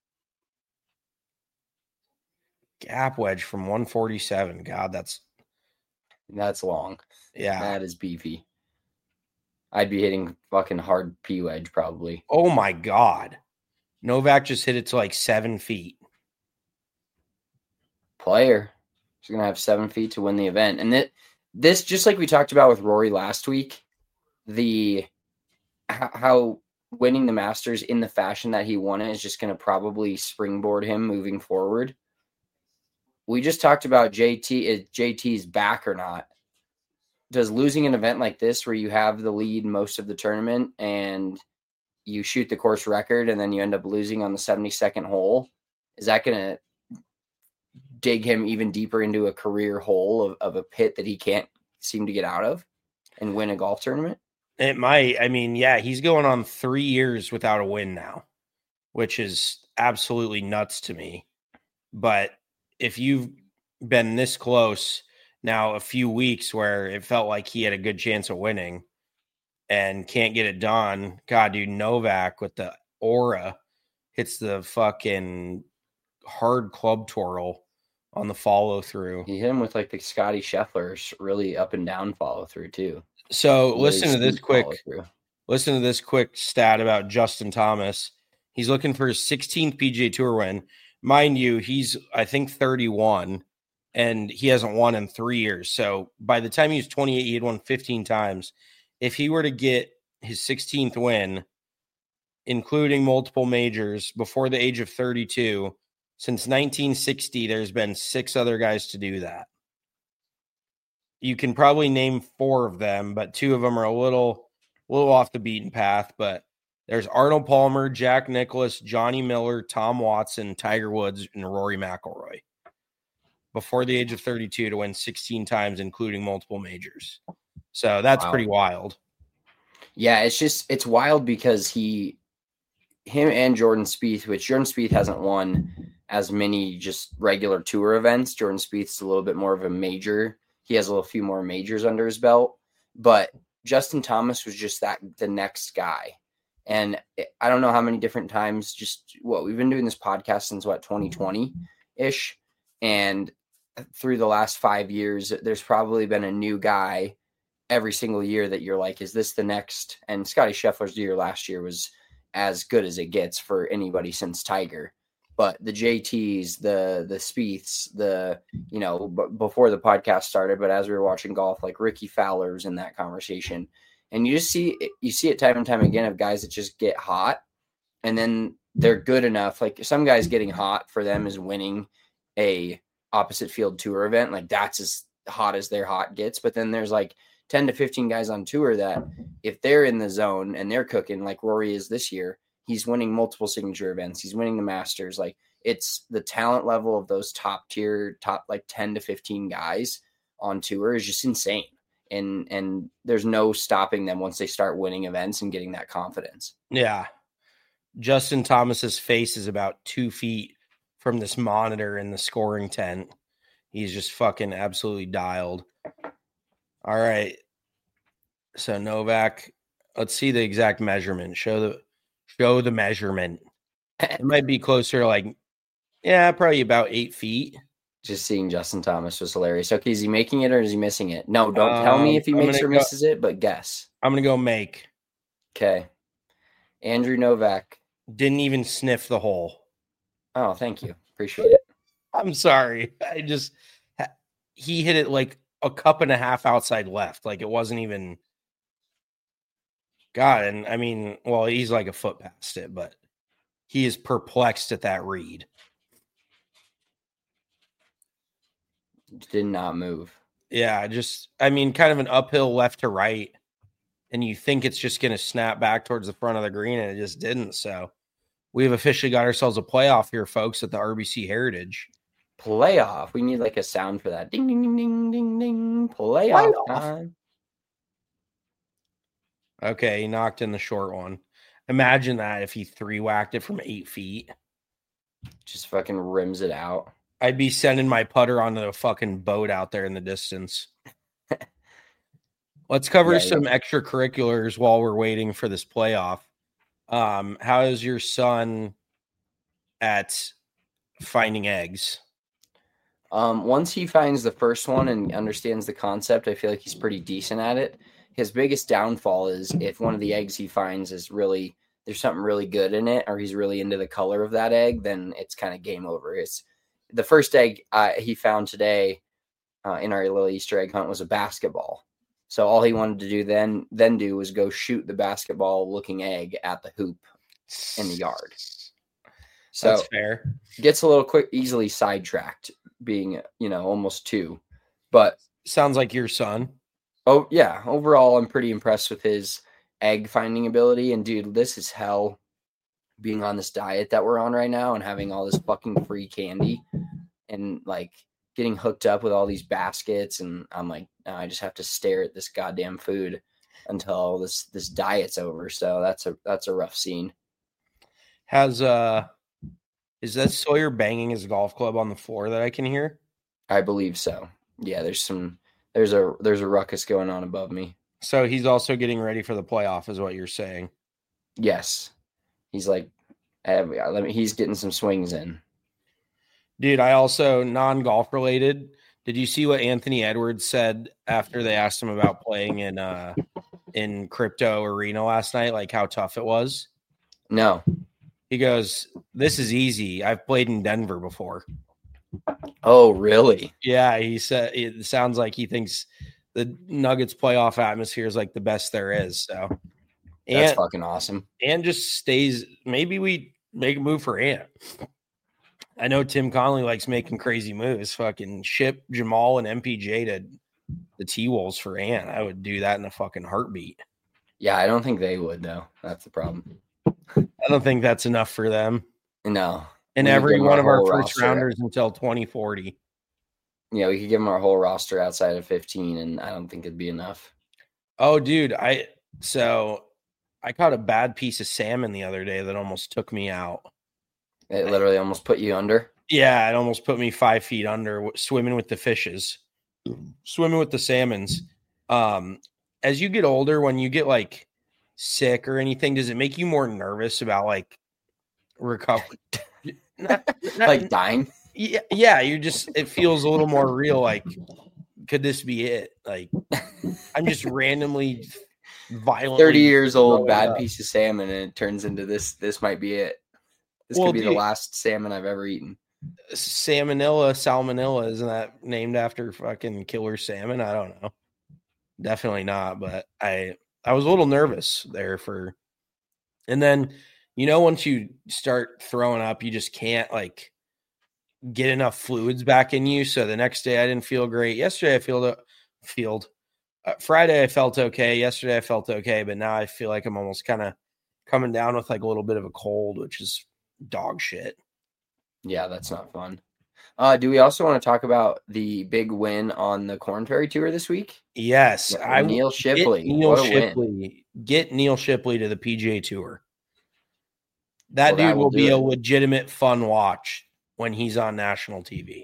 Gap wedge from 147. God, that's long. Yeah. That is beefy. I'd be hitting fucking hard P wedge probably. Oh my God. Novak just hit it to like 7 feet. Player. He's going to have 7 feet to win the event. And this, just like we talked about with Rory last week, how winning the Masters in the fashion that he won it is just going to probably springboard him moving forward. We just talked about JT. Is JT's back or not? Does losing an event like this where you have the lead most of the tournament and you shoot the course record and then you end up losing on the 72nd hole, is that going to dig him even deeper into a career hole of a pit that he can't seem to get out of and win a golf tournament? It might. I mean, yeah, he's going on 3 years without a win now, which is absolutely nuts to me. But if you've been this close now a few weeks where it felt like he had a good chance of winning and can't get it done, God, dude, Novak with the aura hits the fucking hard club twirl on the follow through. He hit him with like the Scotty Scheffler's really up and down follow through too. So Really listen to this steep quick. follow-through. Listen to this quick stat about Justin Thomas. He's looking for his 16th PGA Tour win. Mind you, he's, I think, 31, and he hasn't won in 3 years. So by the time he was 28, he had won 15 times. If he were to get his 16th win, including multiple majors, before the age of 32, since 1960, there's been 6 other guys to do that. You can probably name 4 of them, but 2 of them are a little off the beaten path, but there's Arnold Palmer, Jack Nicklaus, Johnny Miller, Tom Watson, Tiger Woods, and Rory McIlroy before the age of 32 to win 16 times, including multiple majors. So that's pretty wild. Yeah, it's wild because him and Jordan Spieth, which Jordan Spieth hasn't won as many just regular tour events. Jordan Spieth's a little bit more of a major. He has a few more majors under his belt, but Justin Thomas was just the next guy. And I don't know how many different times, we've been doing this podcast since 2020-ish. And through the last 5 years, there's probably been a new guy every single year that you're like, is this the next? And Scotty Scheffler's year last year was as good as it gets for anybody since Tiger. But the JTs, the Spieths, before the podcast started, but as we were watching golf, like Ricky Fowler's in that conversation. And you see it time and time again of guys that just get hot and then they're good enough. Like some guys getting hot for them is winning a opposite field tour event. Like that's as hot as their hot gets. But then there's like 10 to 15 guys on tour that if they're in the zone and they're cooking like Rory is this year, he's winning multiple signature events. He's winning the Masters. Like it's the talent level of those top like 10 to 15 guys on tour is just insane. And there's no stopping them once they start winning events and getting that confidence. Yeah. Justin Thomas's face is about 2 feet from this monitor in the scoring tent. He's just fucking absolutely dialed. All right. So Novak, let's see the exact measurement. Show the measurement. It might be closer to probably about 8 feet. Just seeing Justin Thomas was hilarious. Okay, is he making it or is he missing it? No, don't tell me if he makes or misses it, but guess. I'm going to go make. Okay. Andrew Novak. Didn't even sniff the hole. Oh, thank you. Appreciate it. I'm sorry. He hit it like a cup and a half outside left. Like it wasn't even. God, and I mean, well, he's like a foot past it, but he is perplexed at that read. Did not move. Yeah, kind of an uphill left to right. And you think it's just going to snap back towards the front of the green, and it just didn't. So we've officially got ourselves a playoff here, folks, at the RBC Heritage. Playoff. We need like a sound for that. Ding, ding, ding, ding, ding, ding. Playoff time. Okay, he knocked in the short one. Imagine that if he 3-whacked it from 8 feet. Just fucking rims it out. I'd be sending my putter onto a fucking boat out there in the distance. Let's cover some extracurriculars while we're waiting for this playoff. How is your son at finding eggs? Once he finds the first one and understands the concept, I feel like he's pretty decent at it. His biggest downfall is if one of the eggs he finds is really, there's something really good in it, or he's really into the color of that egg, then it's kind of game over. It's the first egg he found today in our little Easter egg hunt was a basketball. So all he wanted to do then do was go shoot the basketball looking egg at the hoop in the yard. So that's fair. Gets a little easily sidetracked being, almost 2, but sounds like your son. Oh yeah. Overall, I'm pretty impressed with his egg finding ability. And dude, this is hell being on this diet that we're on right now and having all this fucking free candy and like getting hooked up with all these baskets. And I'm like, I just have to stare at this goddamn food until this diet's over. So that's a rough scene. Is that Sawyer banging his golf club on the floor that I can hear? I believe so. Yeah, there's a ruckus going on above me. So he's also getting ready for the playoff, is what you're saying? Yes. He's like, he's getting some swings in. Dude, I also, non-golf related, did you see what Anthony Edwards said after they asked him about playing in Crypto Arena last night, like how tough it was? No. He goes, "This is easy. I've played in Denver before." Oh, really? Yeah, he said it sounds like he thinks the Nuggets playoff atmosphere is like the best there is. So that's fucking awesome. And just stays. Maybe we make a move for Ant. I know Tim Connolly likes making crazy moves. Fucking ship Jamal and MPJ to the T-Wolves for Ant. I would do that in a fucking heartbeat. Yeah, I don't think they would, though. That's the problem. I don't think that's enough for them. No. And every one of our first rounders until 2040. Yeah, we could give them our whole roster outside of 15, and I don't think it'd be enough. Oh, dude. I caught a bad piece of salmon the other day that almost took me out. It literally almost put you under? Yeah, it almost put me 5 feet under swimming with the fishes, swimming with the salmons. As you get older, when you get like sick or anything, does it make you more nervous about like recovery? Like dying? Yeah, you're just, it feels a little more real. Like, could this be it? Like, I'm just randomly violently 30 years old, bad piece of salmon, and it turns into this might be it. This could be the last salmon I've ever eaten. Salmonella, isn't that named after fucking killer salmon? I don't know. Definitely not, but I was a little nervous there and then, once you start throwing up, you just can't like get enough fluids back in you. So the next day I didn't feel great. Yesterday I Friday I felt okay. Yesterday I felt okay, but now I feel like I'm almost kind of coming down with like a little bit of a cold, which is dog shit. Yeah, that's not fun. Do we also want to talk about the big win on the Korn Ferry Tour this week? Yes. Neil Shipley. Get Neil Shipley to the PGA Tour. That dude will be a legitimate fun watch when he's on national TV.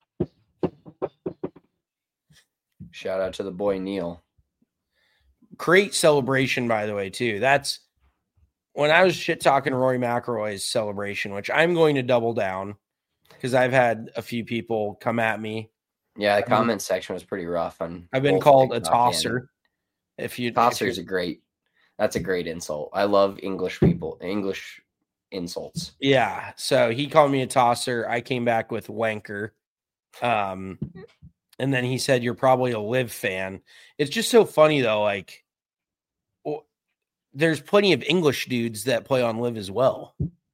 Shout out to the boy Neil. Great celebration, by the way, too. That's when I was shit talking Rory McIlroy's celebration, which I'm going to double down because I've had a few people come at me. Yeah, the comment section was pretty rough. I've been called a tosser. Tosser's that's a great insult. I love English insults. Yeah, so he called me a tosser. I came back with wanker. And then he said, "You're probably a Liv fan." It's just so funny though. Like, there's plenty of English dudes that play on Liv as well.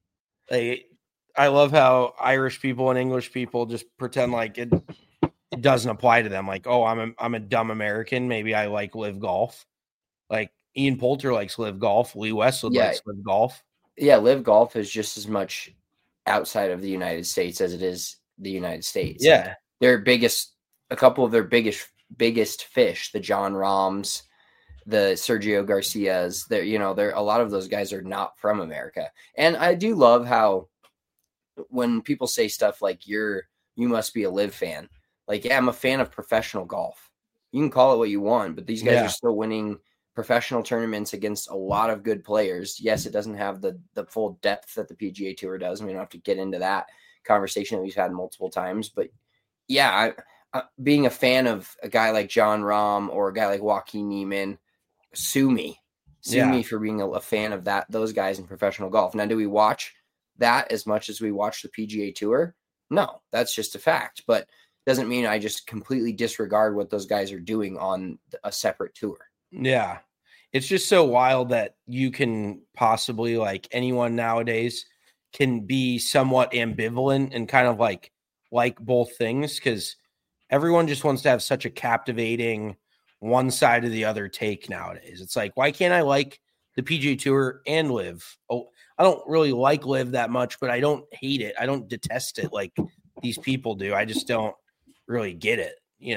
I love how Irish people and English people just pretend like it doesn't apply to them. Like, oh, I'm a dumb American. Maybe I like Liv Golf. Like Ian Poulter likes Liv Golf. Lee Westwood likes Liv Golf. Yeah, Liv Golf is just as much outside of the United States as it is the United States. Yeah, like a couple of their biggest fish, the John Rahms, the Sergio Garcias. They're a lot of those guys are not from America, and I do love how when people say stuff like you must be a Liv fan. Like, yeah, I'm a fan of professional golf. You can call it what you want, but these guys are still winning professional tournaments against a lot of good players. Yes, it doesn't have the full depth that the PGA Tour does. We don't have to get into that conversation that we've had multiple times. But yeah, being a fan of a guy like John Rahm or a guy like Joaquin Niemann, sue me for being a fan of those guys in professional golf. Now, do we watch that as much as we watch the PGA Tour? No, that's just a fact. But doesn't mean I just completely disregard what those guys are doing on a separate tour. Yeah. It's just so wild that you can possibly, like, anyone nowadays can be somewhat ambivalent and kind of like both things, because everyone just wants to have such a captivating one side or the other take nowadays. It's like, why can't I like the PGA Tour and Liv? Oh, I don't really like Liv that much, but I don't hate it. I don't detest it like these people do. I just don't really get it.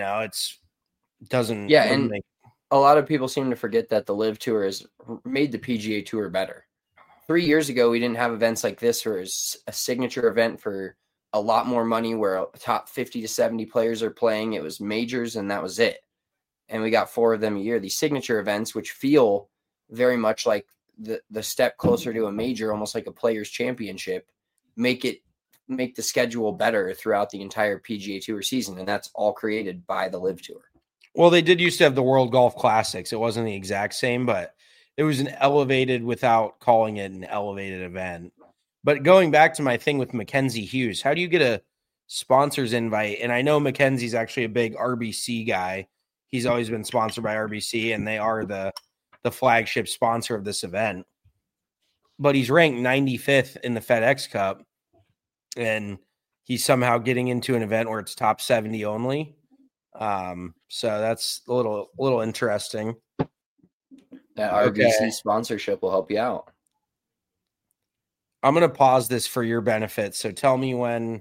Doesn't. Yeah, and a lot of people seem to forget that the Liv Tour has made the PGA Tour better. 3 years ago, we didn't have events like this, where it's a signature event for a lot more money, where top 50 to 70 players are playing. It was majors, and that was it. And we got 4 of them a year. These signature events, which feel very much like the step closer to a major, almost like a players championship, make it make the schedule better throughout the entire PGA Tour season, and that's all created by the Live Tour. Well, they did used to have the World Golf Classics. It wasn't the exact same, but it was an elevated without calling it an elevated event. But going back to my thing with Mackenzie Hughes, how do you get a sponsor's invite? And I know Mackenzie's actually a big RBC guy. He's always been sponsored by RBC, and they are the flagship sponsor of this event. But he's ranked 95th in the FedEx Cup, and he's somehow getting into an event where it's top 70 only. So that's a little interesting. That RBC sponsorship will help you out. I'm going to pause this for your benefit. So tell me when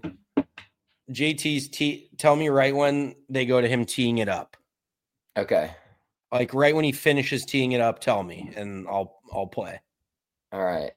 tell me right when they go to him teeing it up. Okay. Like right when he finishes teeing it up, tell me, and I'll play. All right.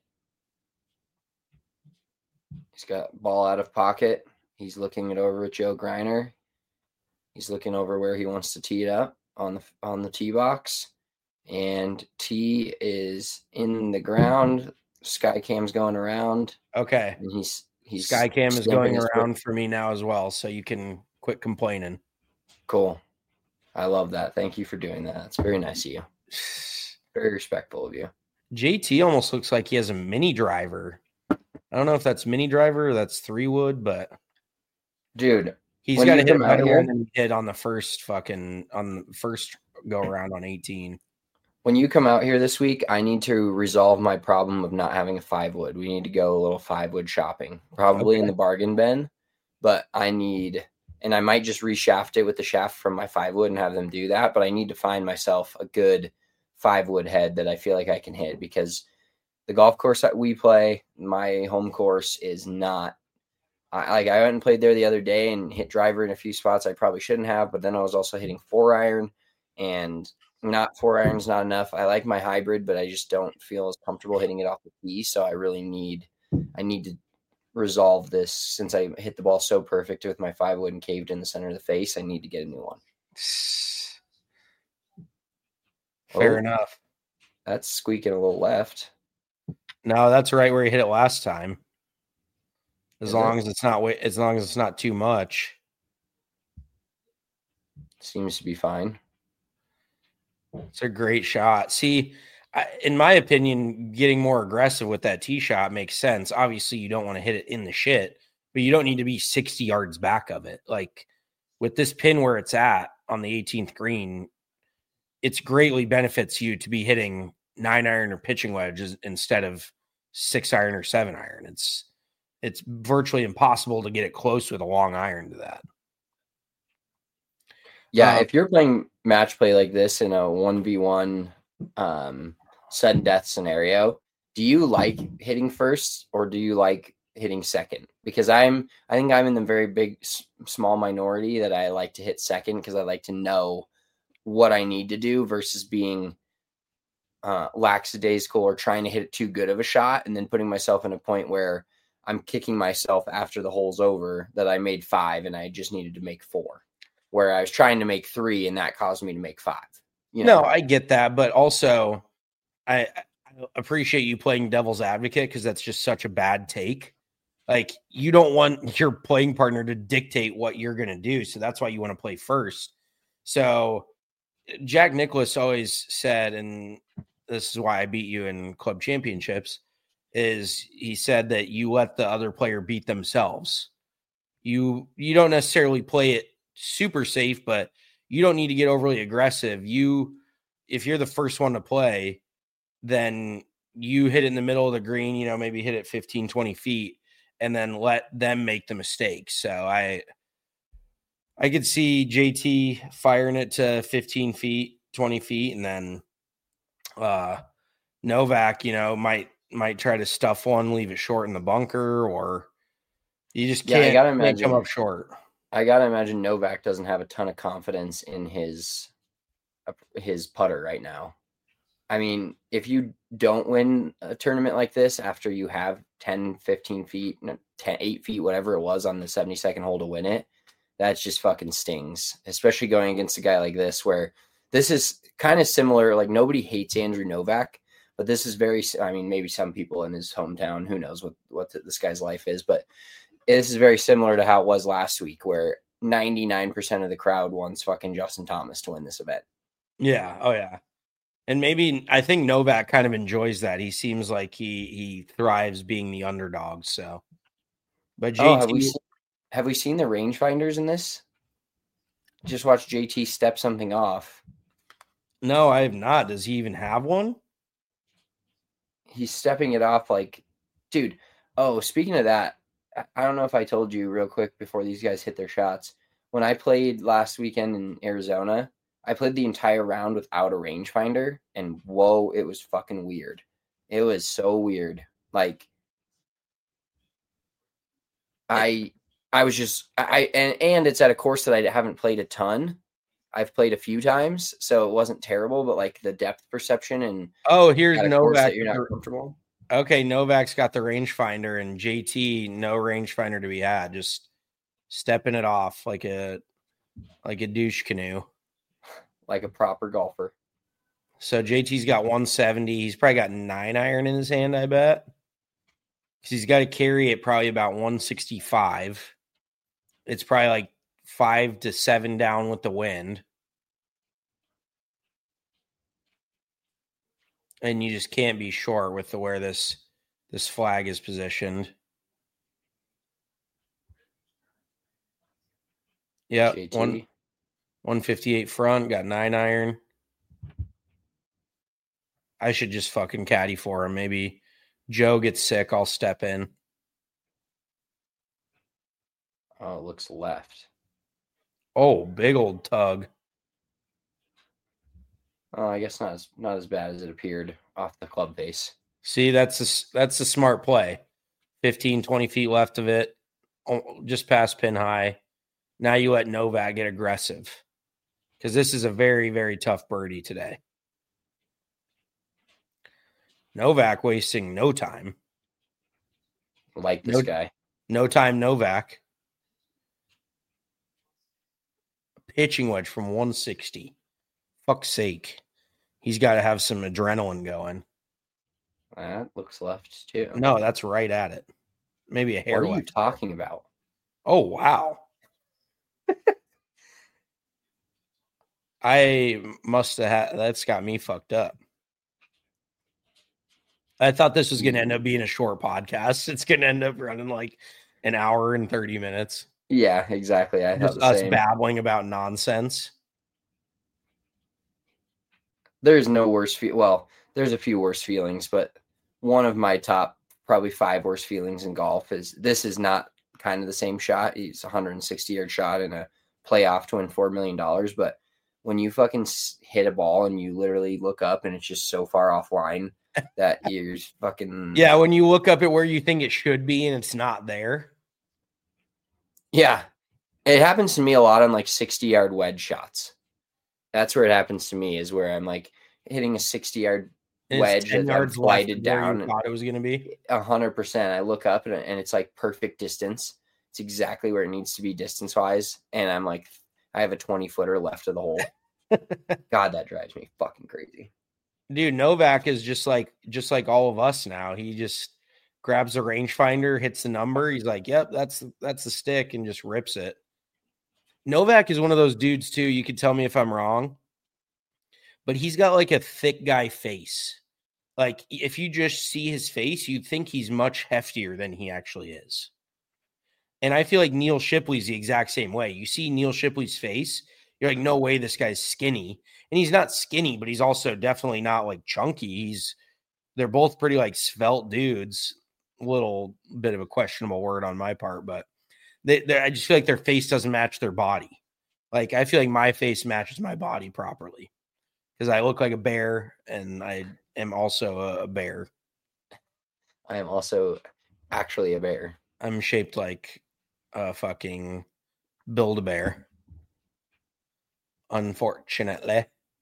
He's got ball out of pocket. He's looking it over at Joe Greiner. He's looking over where he wants to tee it up on the tee box. And tee is in the ground. Skycam's going around. Okay. And he's Skycam is going around for me now as well, so you can quit complaining. Cool. I love that. Thank you for doing that. It's very nice of you. Very respectful of you. JT almost looks like he has a mini driver. I don't know if that's mini driver or that's 3-wood, but dude, he's got to hit better than he did on the first go around on 18. When you come out here this week, I need to resolve my problem of not having a 5-wood. We need to go a little 5-wood shopping, probably in the bargain bin, but I might just reshaft it with the shaft from my 5-wood and have them do that. But I need to find myself a good 5-wood head that I feel like I can hit, because the golf course that we play, my home course, is not. I went and played there the other day and hit driver in a few spots I probably shouldn't have, but then I was also hitting 4-iron, and not 4-iron's not enough. I like my hybrid, but I just don't feel as comfortable hitting it off the tee. So I need to resolve this. Since I hit the ball so perfect with my 5-wood and caved in the center of the face, I need to get a new one. Fair enough. That's squeaking a little left. No, that's right where he hit it last time. As long as it's not too much. Seems to be fine. It's a great shot. See, in my opinion, getting more aggressive with that tee shot makes sense. Obviously, you don't want to hit it in the shit, but you don't need to be 60 yards back of it. Like with this pin where it's at on the 18th green, it's greatly benefits you to be hitting 9-iron or pitching wedges instead of 6-iron or 7-iron. It's virtually impossible to get it close with a long iron to that. Yeah, if you're playing match play like this in a 1v1 sudden death scenario, do you like hitting first or do you like hitting second? Because I think I'm in the very big small minority that I like to hit second, because I like to know what I need to do versus being lackadaisical or trying to hit it too good of a shot and then putting myself in a point where I'm kicking myself after the hole's over that I made 5 and I just needed to make 4. Where I was trying to make 3 and that caused me to make 5. No, I get that. But also I appreciate you playing devil's advocate, because that's just such a bad take. Like, you don't want your playing partner to dictate what you're going to do. So that's why you want to play first. So Jack Nicklaus always said, and this is why I beat you in club championships, is he said that you let the other player beat themselves. You don't necessarily play it super safe, but you don't need to get overly aggressive. If you're the first one to play, then you hit it in the middle of the green, maybe hit it 15, 20 feet, and then let them make the mistake. So I could see JT firing it to 15 feet, 20 feet, and then Novak, might try to stuff one, leave it short in the bunker, or you just can't come up short. I got to imagine Novak doesn't have a ton of confidence in his putter right now. I mean, if you don't win a tournament like this after you have 10, 15 feet, 8 feet, whatever it was on the 72nd hole to win it, that just fucking stings, especially going against a guy like this, where this is kind of similar. Like, nobody hates Andrew Novak, but this is maybe some people in his hometown, who knows what this guy's life is, but this is very similar to how it was last week, where 99% of the crowd wants fucking Justin Thomas to win this event. Yeah. Oh, yeah. And maybe I think Novak kind of enjoys that. He seems like he thrives being the underdog. So, but JT, have we seen the rangefinders in this? Just watch JT step something off. No, I have not. Does he even have one? He's stepping it off like, dude. Oh, speaking of that, I don't know if I told you real quick before these guys hit their shots. When I played last weekend in Arizona, I played the entire round without a rangefinder, and whoa, it was fucking weird. It was so weird. Like, I was just, and it's at a course that I haven't played a ton. I've played a few times, so it wasn't terrible, but like the depth perception and here's Novak. You're not comfortable. Okay, Novak's got the rangefinder, and JT no rangefinder to be had. Just stepping it off like a douche canoe. Like a proper golfer. So JT's got 170. He's probably got 9-iron in his hand, I bet. Because he's got to carry it probably about 165. It's probably like 5 to 7 down with the wind. And you just can't be short with where this flag is positioned. Yeah, 158 front, got 9-iron. I should just fucking caddy for him. Maybe Joe gets sick, I'll step in. Oh, it looks left. Oh, big old tug. Oh, I guess not as bad as it appeared off the club face. See, that's a smart play. 15, 20 feet left of it, just past pin high. Now you let Novak get aggressive because this is a very, very tough birdie today. Novak wasting no time. Like this guy. No time, Novak. Pitching wedge from 160. Fuck's sake. He's got to have some adrenaline going. That looks left too. No, that's right at it. Maybe a hair. What are you talking about? Oh, wow. I must have had, that's got me fucked up. I thought this was going to end up being a short podcast. It's going to end up running like an hour and 30 minutes. Yeah, exactly. I thought just us babbling about nonsense. There's no worse well, there's a few worse feelings, but one of my top probably 5 worst feelings in golf is this is not kind of the same shot. It's a 160-yard shot in a playoff to win $4 million, but when you fucking hit a ball and you literally look up and it's just so far offline that you're fucking... Yeah, when you look up at where you think it should be and it's not there. Yeah. It happens to me a lot on like 60-yard wedge shots. That's where it happens to me, is where I'm like hitting a 60-yard wedge that I've glided down. Thought it was going to be 100%. I look up and it's like perfect distance. It's exactly where it needs to be distance-wise. And I'm like, I have a 20-footer left of the hole. God, that drives me fucking crazy. Dude, Novak is just like all of us now. He just grabs a rangefinder, hits the number. He's like, yep, that's the stick, and just rips it. Novak is one of those dudes too. You can tell me if I'm wrong, but he's got like a thick guy face. Like if you just see his face, you'd think he's much heftier than he actually is. And I feel like Neil Shipley's the exact same way. You see Neil Shipley's face, you're like, no way this guy's skinny. And he's not skinny, but he's also definitely not like chunky. They're both pretty like svelte dudes. A little bit of a questionable word on my part, but I just feel like their face doesn't match their body. Like I feel like my face matches my body properly because I look like a bear and I am also a bear. I am also actually a bear. I'm shaped like a fucking Build-A-Bear. Unfortunately.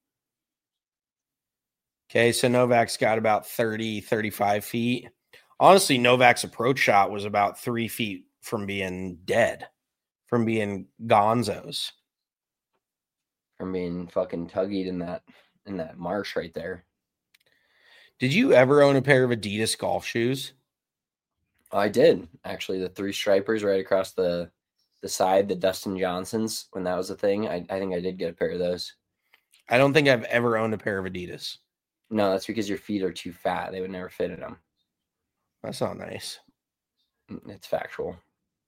Okay, so Novak's got about 30, 35 feet. Honestly, Novak's approach shot was about 3 feet from being dead, from being gonzos. From being fucking tuggied in that marsh right there. Did you ever own a pair of Adidas golf shoes? I did actually. The 3 stripers right across the side, the Dustin Johnsons, when that was a thing. I think I did get a pair of those. I don't think I've ever owned a pair of Adidas. No, that's because your feet are too fat. They would never fit in them. That's not nice. It's factual.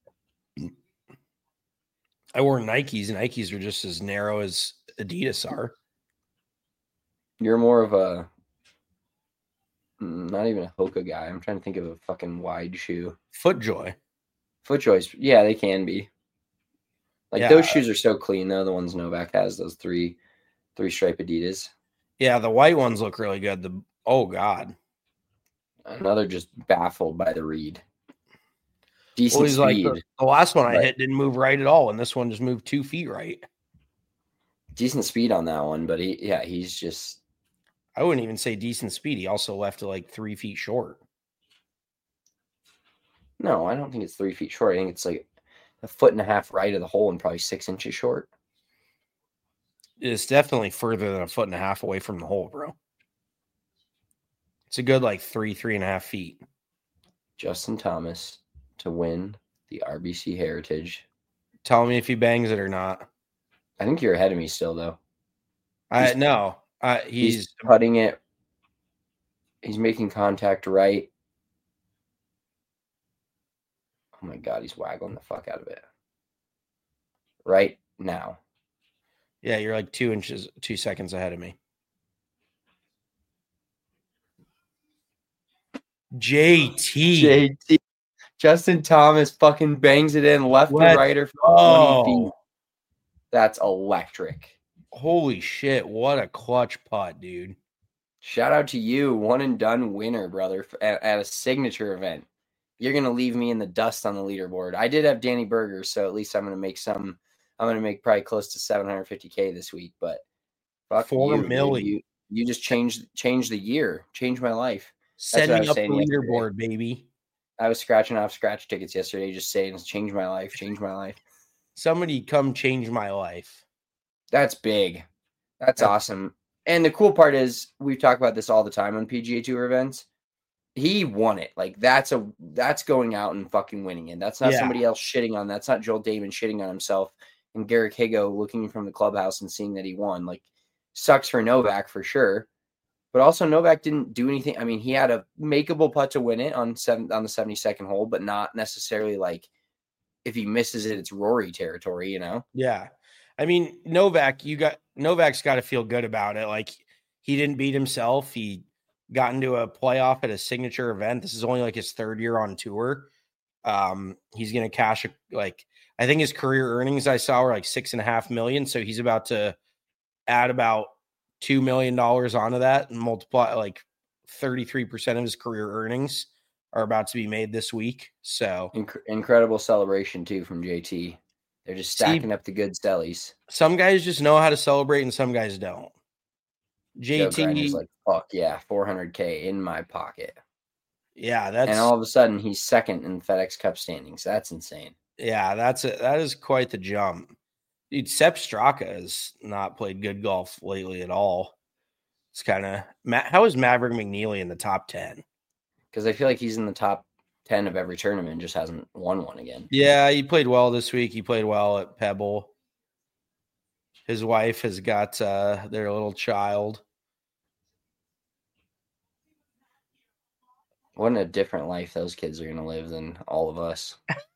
I wore Nikes. Nikes are just as narrow as Adidas are. You're more of a not even a Hoka guy. I'm trying to think of a fucking wide shoe. FootJoy. FootJoys, yeah, they can be. Like those shoes are so clean though. The ones Novak has, those three stripe Adidas. Yeah, the white ones look really good. Oh god, another just baffled by the read. Decent speed. Like the last one I hit didn't move right at all, and this one just moved 2 feet right. Decent speed on that one, but he's just. I wouldn't even say decent speed. He also left it like 3 feet short. No, I don't think it's 3 feet short. I think it's like 1.5 feet right of the hole and probably 6 inches short. It's definitely further than 1.5 feet away from the hole, bro. It's a good like 3.5 feet. Justin Thomas to win the RBC Heritage. Tell me if he bangs it or not. I think you're ahead of me still, though. He's putting it. He's making contact right. Oh my God, he's waggling the fuck out of it. Right now. Yeah, you're like 2 seconds ahead of me. JT. Justin Thomas fucking bangs it in left to righter for 20 feet. That's electric. Holy shit, what a clutch putt, dude. Shout out to you, one and done winner, brother, at a signature event. You're going to leave me in the dust on the leaderboard. I did have Danny Berger, so at least I'm going to make probably close to $750K this week, but fuck $4 million. You just changed the year, changed my life. Setting up the leaderboard, baby. I was scratching off scratch tickets yesterday, just saying, change my life. Somebody come change my life. That's big. That's awesome. And the cool part is we've talked about this all the time on PGA Tour events. He won it. Like that's going out and fucking winning it. That's not somebody else shitting on. That's not Joel Damon shitting on himself and Garrick Higo looking from the clubhouse and seeing that he won. Like sucks for Novak for sure. But also Novak didn't do anything. I mean, he had a makeable putt to win it on the 72nd hole, but not necessarily like if he misses it, it's Rory territory, you know? Yeah. I mean, Novak's got to feel good about it. Like he didn't beat himself. He got into a playoff at a signature event. This is only like his 3rd year on tour. He's going to cash I think his career earnings I saw were like $6.5 million. So he's about to add about $2 million onto that and multiply like 33% of his career earnings are about to be made this week. So incredible celebration too from JT. They're just stacking up the good stellies. Some guys just know how to celebrate and some guys don't. JT is like, fuck yeah, $400K in my pocket. Yeah, and all of a sudden he's second in FedEx Cup standings. That's insane. Yeah, that is quite the jump. Dude, Sepp Straka has not played good golf lately at all. It's kind of how is Maverick McNeely in the top 10? Because I feel like he's in the top 10 of every tournament, just hasn't won one again. Yeah, he played well this week. He played well at Pebble. His wife has got their little child. What a different life those kids are going to live than all of us.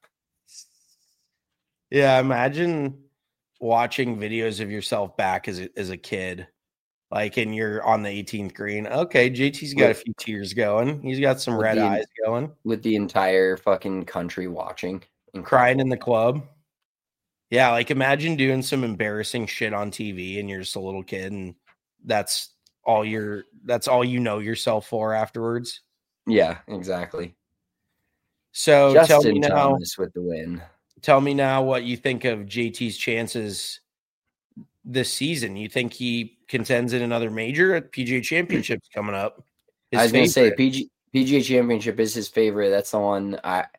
Yeah, imagine watching videos of yourself back as a kid. Like, and you're on the 18th green. Okay, JT's got a few tears going. He's got some red eyes going. With the entire fucking country watching. And crying in the club. Yeah, like imagine doing some embarrassing shit on TV and you're just a little kid and that's all you know yourself for afterwards. Yeah, exactly. So Justin tell me now, Thomas with the win. Tell me now what you think of JT's chances this season. You think he contends in another major? At PGA Championship's coming up. I was going to say PGA Championship is his favorite. That's the one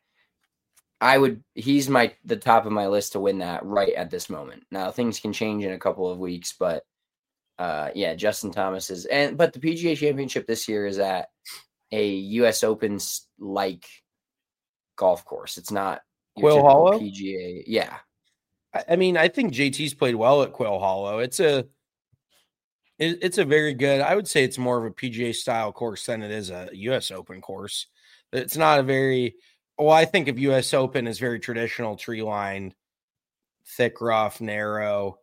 he's the top of my list to win that right at this moment. Now things can change in a couple of weeks, but Justin Thomas is, but the PGA Championship this year is at a US Open like golf course. It's not your Quail typical Hollow? PGA. Yeah. I mean, I think JT's played well at Quail Hollow. It's a very good, I would say it's more of a PGA style course than it is a US Open course. It's not a very, I think of US Open as very traditional, tree lined, thick, rough, narrow.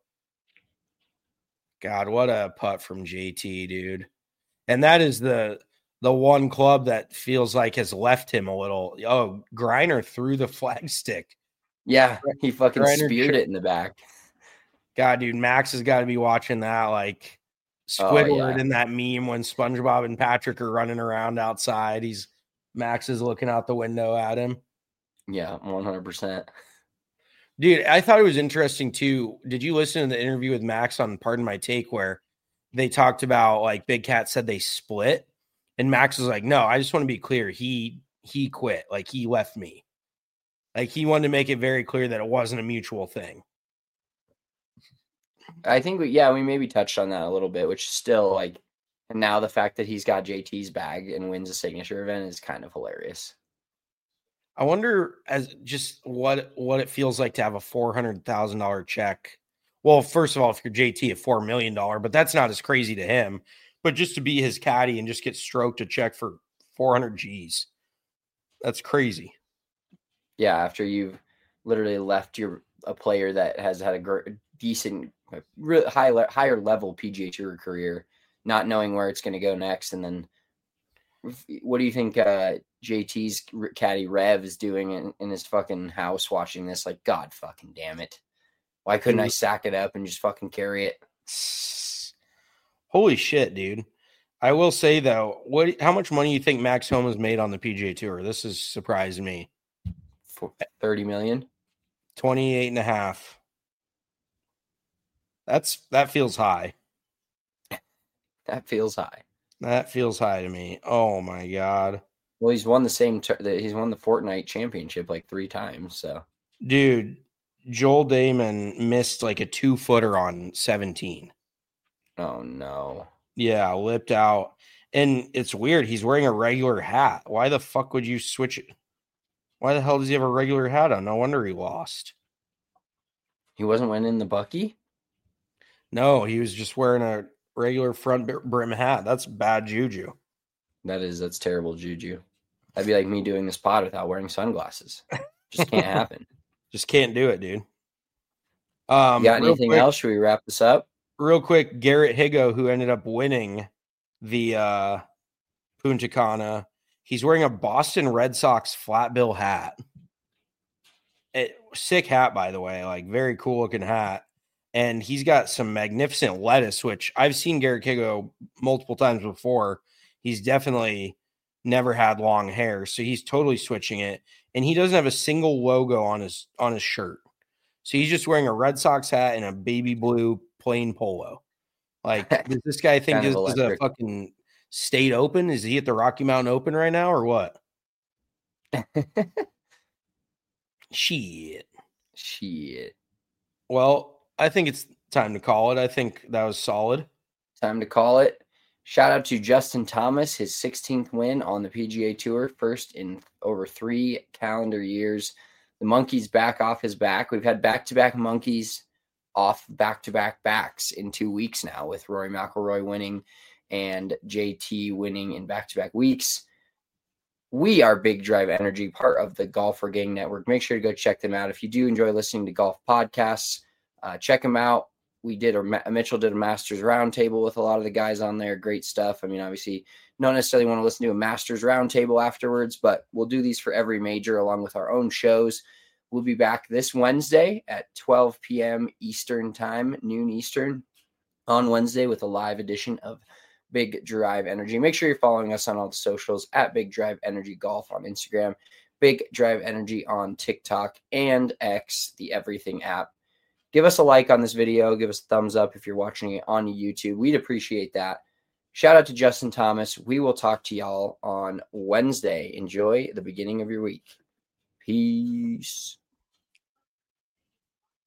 God, what a putt from JT, dude. And that is the one club that feels like has left him a little. Oh, Griner threw the flagstick. Yeah, he fucking Griner speared it in the back. God, dude, Max has got to be watching that like Squidward in that meme when SpongeBob and Patrick are running around outside. Max is looking out the window at him. Yeah, 100%. Dude, I thought it was interesting too. Did you listen to the interview with Max on Pardon My Take where they talked about like Big Cat said they split and Max was like, no, I just want to be clear. He quit. Like he left me. Like he wanted to make it very clear that it wasn't a mutual thing. I think we maybe touched on that a little bit, which is still like, and now the fact that he's got JT's bag and wins a signature event is kind of hilarious. I wonder as just what it feels like to have a $400,000 check. Well, first of all, if you're JT, a $4 million, but that's not as crazy to him. But just to be his caddy and just get stroked a check for 400 G's, that's crazy. Yeah, after you've literally left a player that has had a decent, higher level PGA Tour career, not knowing where it's going to go next, and then what do you think JT's caddy Rev is doing in his fucking house watching this? Like, God fucking damn it. Why couldn't I sack it up and just fucking carry it? Holy shit, dude. I will say, though, how much money you think Max Homa has made on the PGA Tour? This has surprised me. 30 million? 28.5. That feels high. That feels high. That feels high to me. Oh my God. Well, he's won he's won the Fortnite championship like 3 times. So, dude, Joel Damon missed like a 2-footer on 17. Oh no. Yeah, lipped out. And it's weird. He's wearing a regular hat. Why the fuck would you switch it? Why the hell does he have a regular hat on? No wonder he lost. He wasn't winning the Bucky? No, he was just wearing a regular front brim hat. That's bad juju. That's terrible juju. That'd be like me doing this pod without wearing sunglasses. Just can't happen. Just can't do it, dude. You got anything else? Should we wrap this up? Real quick, Garrett Higo, who ended up winning the Punta Cana, he's wearing a Boston Red Sox flat bill hat. Sick hat, by the way. Like, very cool looking hat. And he's got some magnificent lettuce, which I've seen Garrett Higo multiple times before. He's definitely never had long hair, so he's totally switching it. And he doesn't have a single logo on his shirt. So he's just wearing a Red Sox hat and a baby blue plain polo. Like, does this guy think this is a fucking state open? Is he at the Rocky Mountain Open right now or what? Shit. Well, I think it's time to call it. I think that was solid. Time to call it. Shout out to Justin Thomas, his 16th win on the PGA Tour, first in over 3 calendar years. The monkey's back off his back. We've had back-to-back monkeys off back-to-back backs in 2 weeks now, with Rory McIlroy winning and JT winning in back-to-back weeks. We are Big Drive Energy, part of the Golfer Gang Network. Make sure to go check them out. If you do enjoy listening to golf podcasts, check them out. Mitchell did a Masters Roundtable with a lot of the guys on there. Great stuff. I mean, obviously, don't necessarily want to listen to a Masters Roundtable afterwards, but we'll do these for every major along with our own shows. We'll be back this Wednesday at 12 p.m. Eastern time, noon Eastern, on Wednesday with a live edition of Big Drive Energy. Make sure you're following us on all the socials at Big Drive Energy Golf on Instagram, Big Drive Energy on TikTok and X, the Everything app. Give us a like on this video. Give us a thumbs up if you're watching it on YouTube. We'd appreciate that. Shout out to Justin Thomas. We will talk to y'all on Wednesday. Enjoy the beginning of your week. Peace.